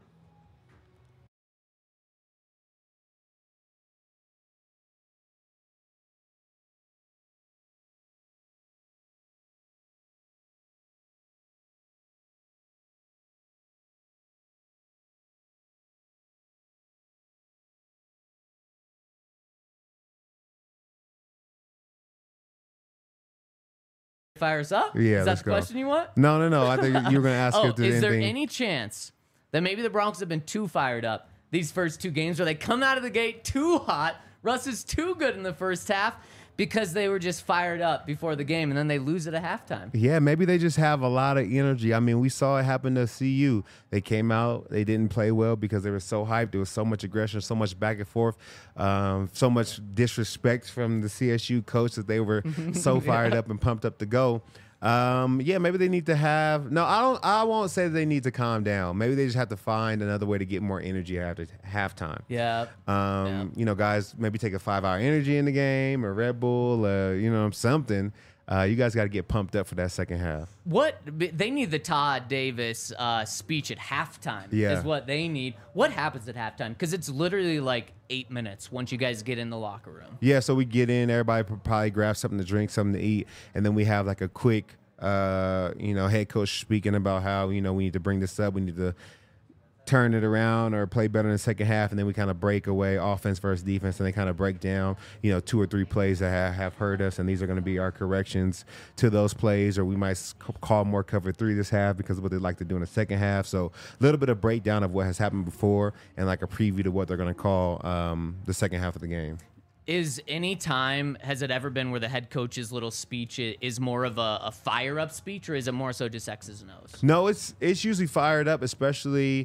Fire us up? Yeah, Is that let's the go. question you want? No. I think you were going to ask Oh, if there's is there anything. any chance that maybe the Broncos have been too fired up these first 2 games, where they come out of the gate too hot? Russ is too good in the first half because they were just fired up before the game, and then they lose it at halftime. Yeah, maybe they just have a lot of energy. I mean, we saw it happen to CU. They came out, they didn't play well because they were so hyped. There was so much aggression, so much back and forth, so much disrespect from the CSU coach that they were so fired up and pumped up to go. Yeah, maybe they need to have. No, I won't say they need to calm down. Maybe they just have to find another way to get more energy after halftime. Yeah. You know, guys, maybe take a 5-hour energy in the game or Red Bull, you know, something. You guys got to get pumped up for that second half. What they need, the Todd Davis speech at halftime Yeah. is what they need. What happens at halftime? Because it's literally like 8 minutes once you guys get in the locker room. Yeah, so we get in, everybody probably grab something to drink, something to eat, and then we have like a quick, you know, head coach speaking about how, you know, we need to bring this up, we need to turn it around or play better in the second half, and then we kind of break away offense versus defense, and they kind of break down, you know, 2 or 3 plays that have hurt us, and these are going to be our corrections to those plays, or we might call more cover 3 this half because of what they like to do in the second half. So a little bit of breakdown of what has happened before and like a preview to what they're going to call the second half of the game. Is any time, has it ever been where the head coach's little speech is more of a fire-up speech, or is it more so just X's and O's? No, it's usually fired up, especially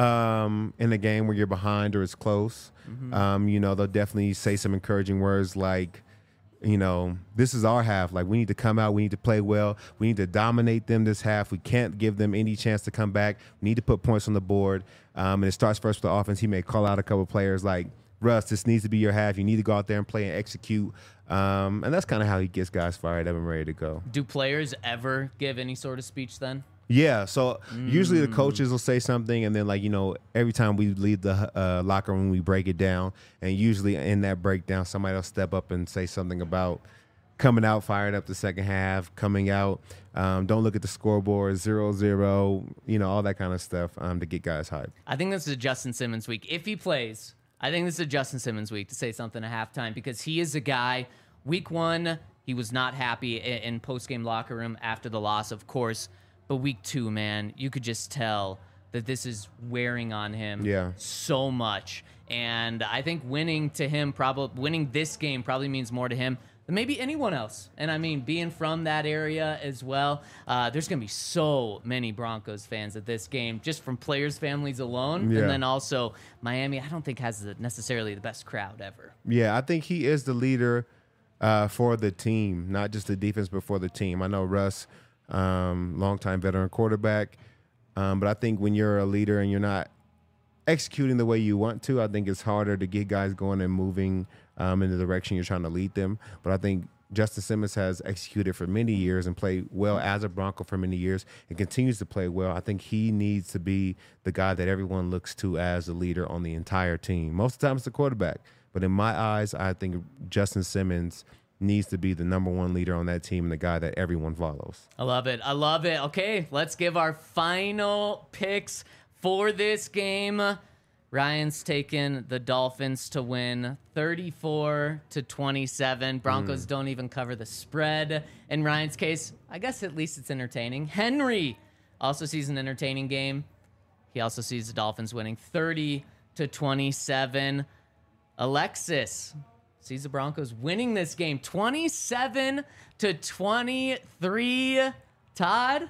in a game where you're behind or it's close. You know, they'll definitely say some encouraging words like, you know, this is our half. Like, we need to come out. We need to play well. We need to dominate them this half. We can't give them any chance to come back. We need to put points on the board. And it starts first with the offense. He may call out a couple players like, Russ, this needs to be your half. You need to go out there and play and execute. And that's kind of how he gets guys fired up and ready to go. Do players ever give any sort of speech then? Yeah, so usually the coaches will say something, and then, like, you know, every time we leave the locker room, we break it down. And usually in that breakdown, somebody will step up and say something about coming out fired up the second half, coming out, don't look at the scoreboard, 0-0, you know, all that kind of stuff to get guys hyped. I think this is a Justin Simmons week. If he plays, I think this is a Justin Simmons week to say something at halftime, because he is a guy, week 1, he was not happy in post-game locker room after the loss, of course. But week 2, man, you could just tell that this is wearing on him so much. And I think winning this game probably means more to him than than maybe anyone else. And I mean, being from that area as well, there's going to be so many Broncos fans at this game, just from players' families alone. Yeah. And then also Miami, I don't think has necessarily the best crowd ever. Yeah, I think he is the leader for the team, not just the defense, but for the team. I know Russ, longtime veteran quarterback, but I think when you're a leader and you're not executing the way you want to, I think it's harder to get guys going and moving in the direction you're trying to lead them. But I think Justin Simmons has executed for many years and played well as a Bronco for many years and continues to play well. I think he needs to be the guy that everyone looks to as the leader on the entire team. Most of the time it's the quarterback. But in my eyes, I think Justin Simmons needs to be the number one leader on that team and the guy that everyone follows. I love it. I love it. Okay, let's give our final picks for this game. Ryan's taking the Dolphins to win 34-27. Broncos don't even cover the spread. In Ryan's case, I guess at least it's entertaining. Henry also sees an entertaining game. He also sees the Dolphins winning 30-27. Alexis sees the Broncos winning this game 27-23. Todd,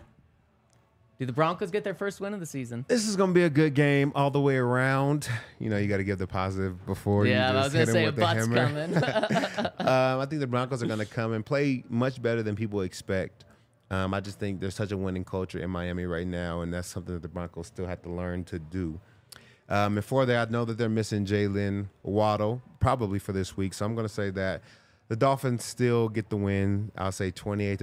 do the Broncos get their first win of the season? This is going to be a good game all the way around. You know, you got to give the positive before you just I was going hit to him say a with the butt's hammer. coming. I think the Broncos are going to come and play much better than people expect. I just think there's such a winning culture in Miami right now, and that's something that the Broncos still have to learn to do. And for that, I know that they're missing Jalen Waddle probably for this week, so I'm going to say that the Dolphins still get the win. I'll say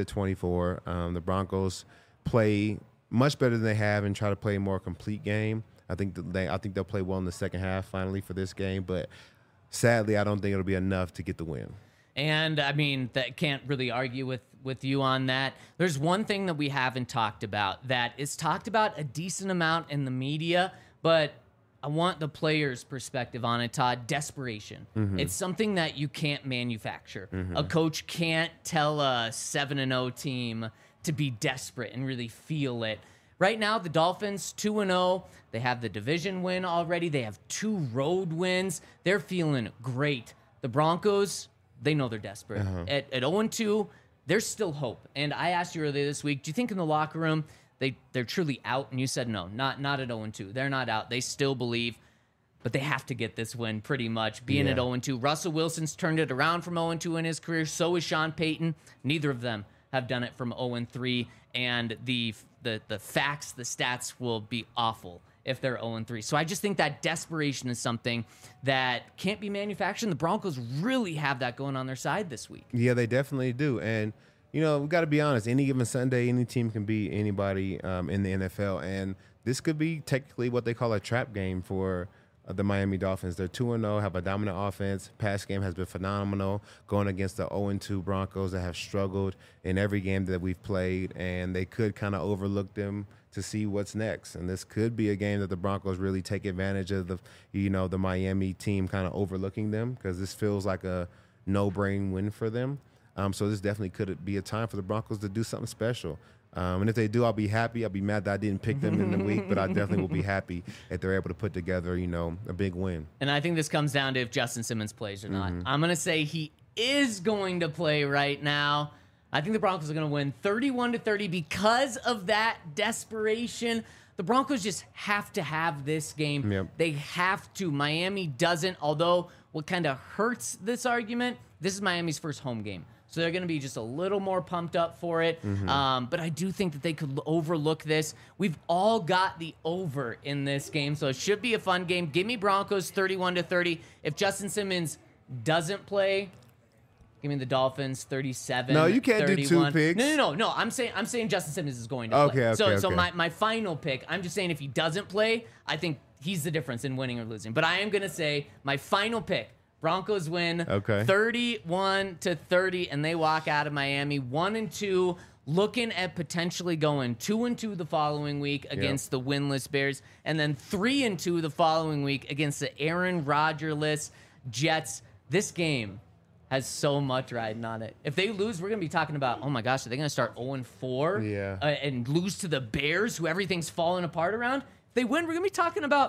28-24. The Broncos play much better than they have and try to play a more complete game. I think they'll play well in the second half finally for this game, but sadly, I don't think it'll be enough to get the win. And I mean, that can't really argue with you on that. There's one thing that we haven't talked about that is talked about a decent amount in the media, but I want the players' perspective on it, Todd. Desperation. It's something that you can't manufacture. A coach can't tell a 7-0 team to be desperate and really feel it. Right now, the Dolphins 2-0. They have the division win already. They have 2 road wins. They're feeling great. The Broncos, they know they're desperate. At 0-2, there's still hope. And I asked you earlier this week, do you think in the locker room they're truly out? And you said no, not at 0-2. They're not out. They still believe, but they have to get this win pretty much, being at 0-2. Russell Wilson's turned it around from 0-2 in his career. So is Sean Payton. Neither of them have done it from 0-3, and the facts, the stats will be awful if they're 0-3. So I just think that desperation is something that can't be manufactured. The Broncos really have that going on their side this week. Yeah, they definitely do. And, you know, we've got to be honest. Any given Sunday, any team can beat anybody in the NFL. And this could be technically what they call a trap game for the Miami Dolphins. They're 2-0, have a dominant offense. Pass game has been phenomenal, going against the 0-2 Broncos that have struggled in every game that we've played, and they could kind of overlook them to see what's next. And this could be a game that the Broncos really take advantage of the Miami team kind of overlooking them, because this feels like a no-brain win for them. So this definitely could be a time for the Broncos to do something special. And if they do, I'll be happy. I'll be mad that I didn't pick them in the week, but I definitely will be happy if they're able to put together, a big win. And I think this comes down to if Justin Simmons plays or not. I'm going to say he is going to play right now. I think the Broncos are going to win 31-30 because of that desperation. The Broncos just have to have this game. Yep. They have to. Miami doesn't, although what kind of hurts this argument, this is Miami's first home game. So they're going to be just a little more pumped up for it. But I do think that they could overlook this. We've all got the over in this game, so it should be a fun game. Give me Broncos 31-30. If Justin Simmons doesn't play, give me the Dolphins 37. No, you can't 31. do 2 picks. No. I'm saying Justin Simmons is going to play. So my final pick, I'm just saying if he doesn't play, I think he's the difference in winning or losing. But I am going to say my final pick, Broncos win 31-30, and they walk out of Miami 1-2, looking at potentially going 2-2 the following week against the winless Bears, and then 3-2 the following week against the Aaron Rodgers-less Jets. This game has so much riding on it. If they lose, we're going to be talking about, oh my gosh, are they going to start 0-4 and lose to the Bears, who everything's falling apart around? If they win, we're going to be talking about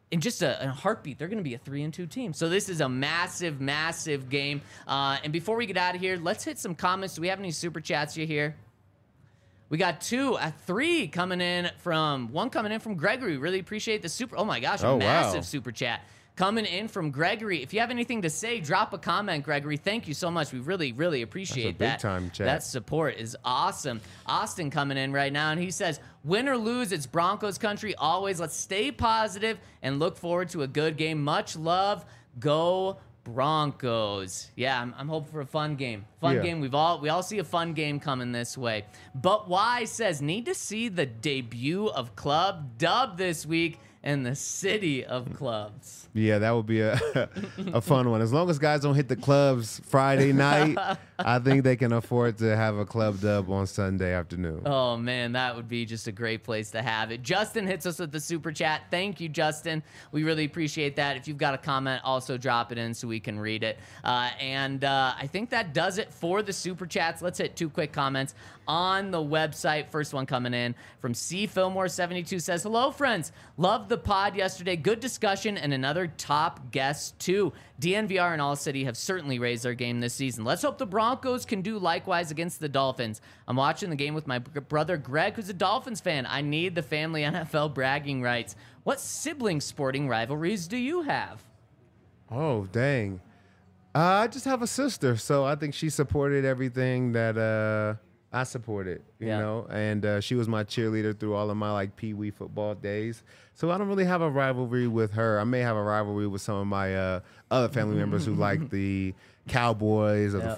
in just a heartbeat, they're going to be a 3-2 team. So this is a massive, massive game. And before we get out of here, let's hit some comments. Do we have any super chats you hear? We got three coming in from Gregory. Really appreciate the super. Oh my gosh, a massive super chat coming in from Gregory. If you have anything to say, drop a comment, Gregory. Thank you so much. We really, really appreciate that. Big time chat. That support is awesome. Austin coming in right now, and he says, win or lose, it's Broncos country always. Let's stay positive and look forward to a good game. Much love. Go Broncos. Yeah, I'm hoping for a fun game. Game. We all see a fun game coming this way. But Y says, need to see the debut of Club Dub this week in the city of clubs. Yeah, that would be a fun one. As long as guys don't hit the clubs Friday night, I think they can afford to have a Club Dub on Sunday afternoon. Oh, man, that would be just a great place to have it. Justin hits us with the super chat. Thank you, Justin. We really appreciate that. If you've got a comment, also drop it in so we can read it. And I think that does it for the super chats. Let's hit 2 quick comments on the website. First one coming in from C. Fillmore72 says, hello, friends. Loved the pod yesterday. Good discussion and another top guest, too. DNVR and All City have certainly raised their game this season. Let's hope the Broncos can do likewise against the Dolphins. I'm watching the game with my brother Greg, who's a Dolphins fan. I need the family NFL bragging rights. What sibling sporting rivalries do you have? Oh, dang. I just have a sister, so I think she supported everything that I supported, you know, and she was my cheerleader through all of my like Pee-wee football days. So I don't really have a rivalry with her. I may have a rivalry with some of my other family members who like the Cowboys or the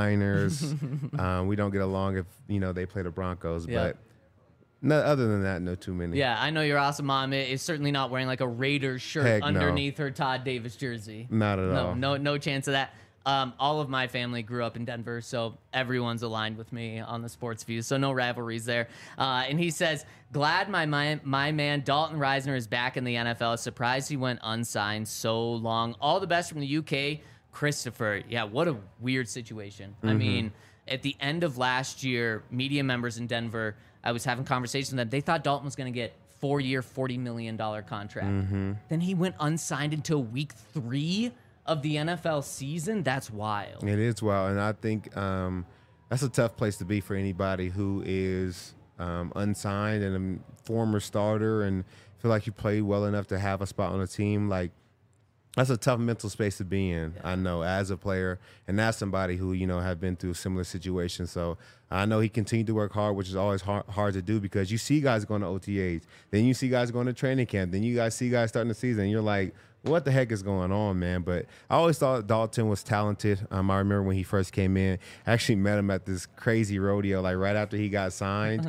49ers. We don't get along if, you know, they play the Broncos, but no, other than that, no too many. Yeah, I know your awesome mom is certainly not wearing like a Raiders shirt underneath her Todd Davis jersey. Not at all. No chance of that. All of my family grew up in Denver, so everyone's aligned with me on the sports views, so no rivalries there. And he says, glad my man Dalton Reisner is back in the NFL. Surprised he went unsigned so long. All the best from the UK, Christopher. Yeah, what a weird situation. I mean, at the end of last year, media members in Denver, I was having conversations with them. They thought Dalton was going to get 4-year, $40 million contract. Then he went unsigned until week 3 of the NFL season. That's wild. It is wild, and I think that's a tough place to be for anybody who is unsigned and a former starter and feel like you played well enough to have a spot on a team. Like, that's a tough mental space to be in, I know, as a player and as somebody who, you know, have been through similar situations. So I know he continued to work hard, which is always hard to do because you see guys going to OTAs, then you see guys going to training camp, then you guys see guys starting the season, and you're like, what the heck is going on, man? But I always thought Dalton was talented. I remember when he first came in, I actually met him at this crazy rodeo, like right after he got signed.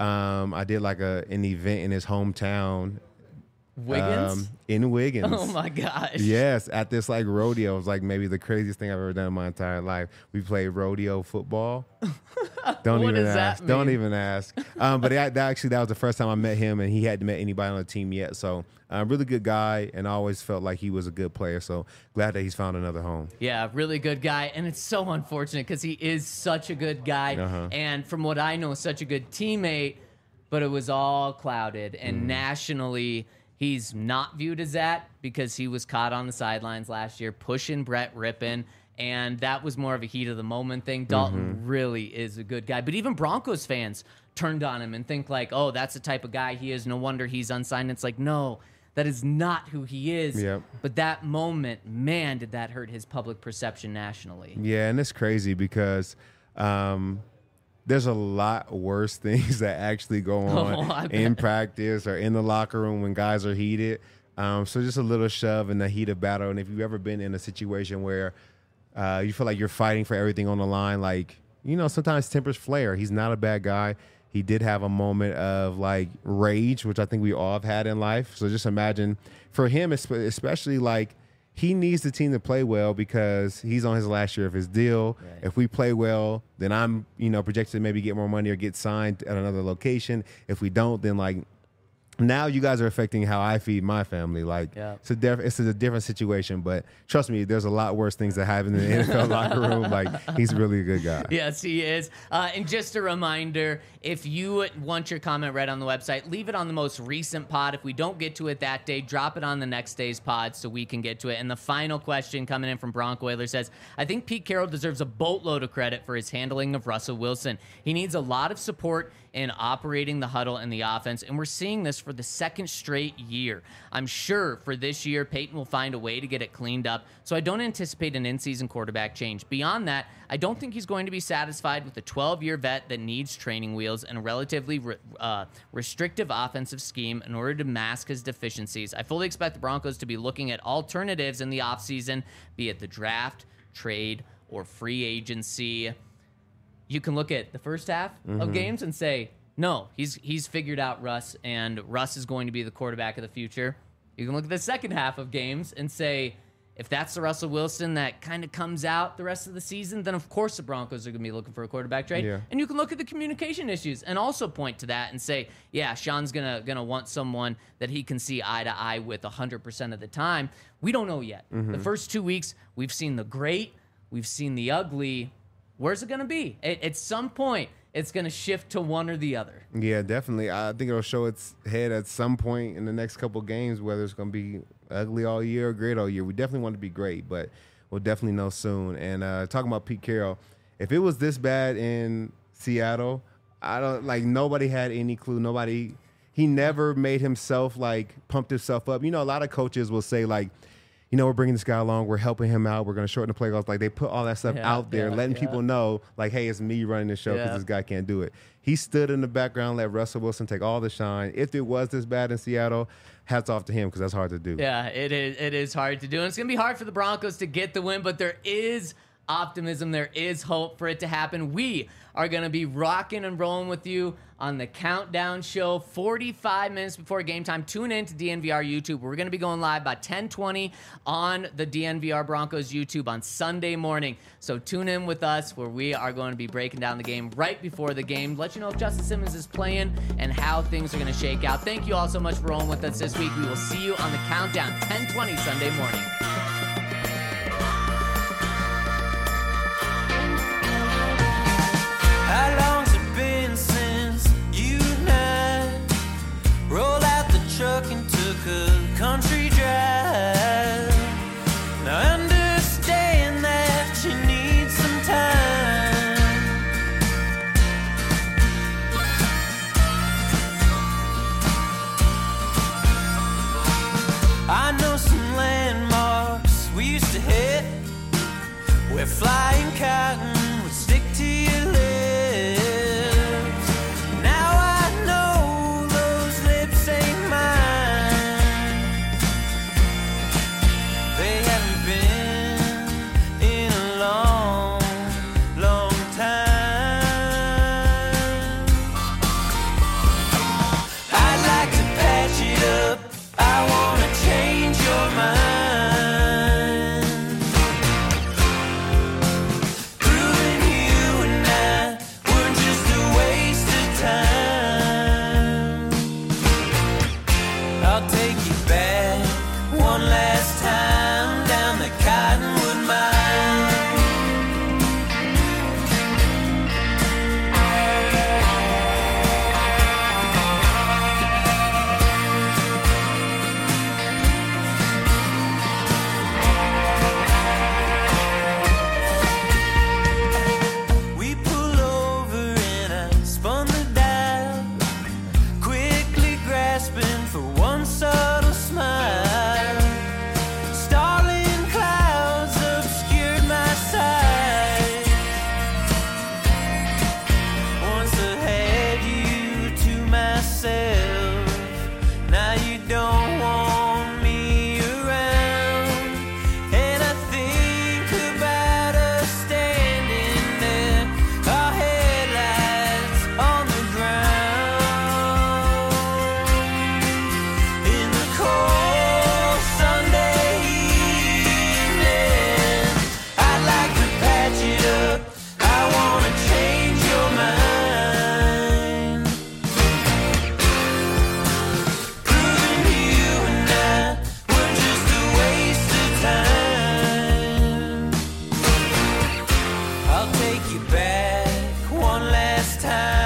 I did like an event in his hometown. Wiggins? In Wiggins. Oh my gosh. Yes, at this like rodeo. It was like maybe the craziest thing I've ever done in my entire life. We played rodeo football. Don't What even does that ask. Don't mean? even ask. But that was the first time I met him, and he hadn't met anybody on the team yet. So really good guy, and I always felt like he was a good player. So glad that he's found another home. Yeah, really good guy. And it's so unfortunate because he is such a good guy. And from what I know, such a good teammate, but it was all clouded. And nationally, he's not viewed as that because he was caught on the sidelines last year pushing Brett Rippon, and that was more of a heat of the moment thing. Dalton really is a good guy. But even Broncos fans turned on him and think like, oh, that's the type of guy he is. No wonder he's unsigned. It's like, no, that is not who he is. Yep. But that moment, man, did that hurt his public perception nationally. Yeah, and it's crazy because there's a lot worse things that actually go on in practice or in the locker room when guys are heated. So just a little shove in the heat of battle. And if you've ever been in a situation where you feel like you're fighting for everything on the line, like, you know, sometimes tempers flare. He's not a bad guy. He did have a moment of like rage, which I think we all have had in life. So just imagine for him, especially like, he needs the team to play well because he's on his last year of his deal. Right. If we play well, then I'm, you know, projected to maybe get more money or get signed at another location. If we don't, then like now you guys are affecting how I feed my family. Like, Yeah. it's a different situation. But trust me, there's a lot worse things that happen in the NFL locker room. Like, he's really a good guy. Yes, he is. And just a reminder, if you want your comment read on the website, leave it on the most recent pod. If we don't get to it that day, drop it on the next day's pod so we can get to it. And the final question coming in from Bronco Oiler says, I think Pete Carroll deserves a boatload of credit for his handling of Russell Wilson. He needs a lot of support in operating the huddle and the offense, and we're seeing this for the second straight year. I'm sure for this year, Peyton will find a way to get it cleaned up, so I don't anticipate an in-season quarterback change. Beyond that, I don't think he's going to be satisfied with a 12-year vet that needs training wheels and a relatively restrictive offensive scheme in order to mask his deficiencies. I fully expect the Broncos to be looking at alternatives in the offseason, be it the draft, trade, or free agency. You can look at the first half of games and say, no, he's figured out Russ, and Russ is going to be the quarterback of the future. You can look at the second half of games and say, if that's the Russell Wilson that kind of comes out the rest of the season, then of course the Broncos are going to be looking for a quarterback trade. Yeah. And you can look at the communication issues and also point to that and say, yeah, Sean's gonna want someone that he can see eye to eye with 100% of the time. We don't know yet. The first 2 weeks, we've seen the great, we've seen the ugly. Where's it going to be? At some point, it's going to shift to one or the other. Yeah, definitely. I think it'll show its head at some point in the next couple of games, whether it's going to be ugly all year or great all year. We definitely want to be great, but we'll definitely know soon. And talking about Pete Carroll, if it was this bad in Seattle, nobody had any clue. He never made himself, pumped himself up. You know, a lot of coaches will say, we're bringing this guy along. We're helping him out. We're going to shorten the playoffs. Like, they put all that stuff out there, letting people know, hey, it's me running the show because this guy can't do it. He stood in the background, let Russell Wilson take all the shine. If it was this bad in Seattle, hats off to him because that's hard to do. Yeah, it is. It is hard to do. And it's going to be hard for the Broncos to get the win, but there is optimism. There is hope for it to happen. We are going to be rocking and rolling with you on the Countdown Show 45 minutes before game time. Tune in to DNVR YouTube. We're going to be going live by 10:20 on the DNVR Broncos YouTube on Sunday morning. So tune in with us where we are going to be breaking down the game right before the game. Let you know if Justin Simmons is playing and how things are going to shake out. Thank you all so much for rolling with us this week. We will see you on the Countdown 10:20 Sunday morning. How long's it been since you and I rolled out the truck and took a country drive? Now I understand that you need some time. I know some landmarks you back one last time.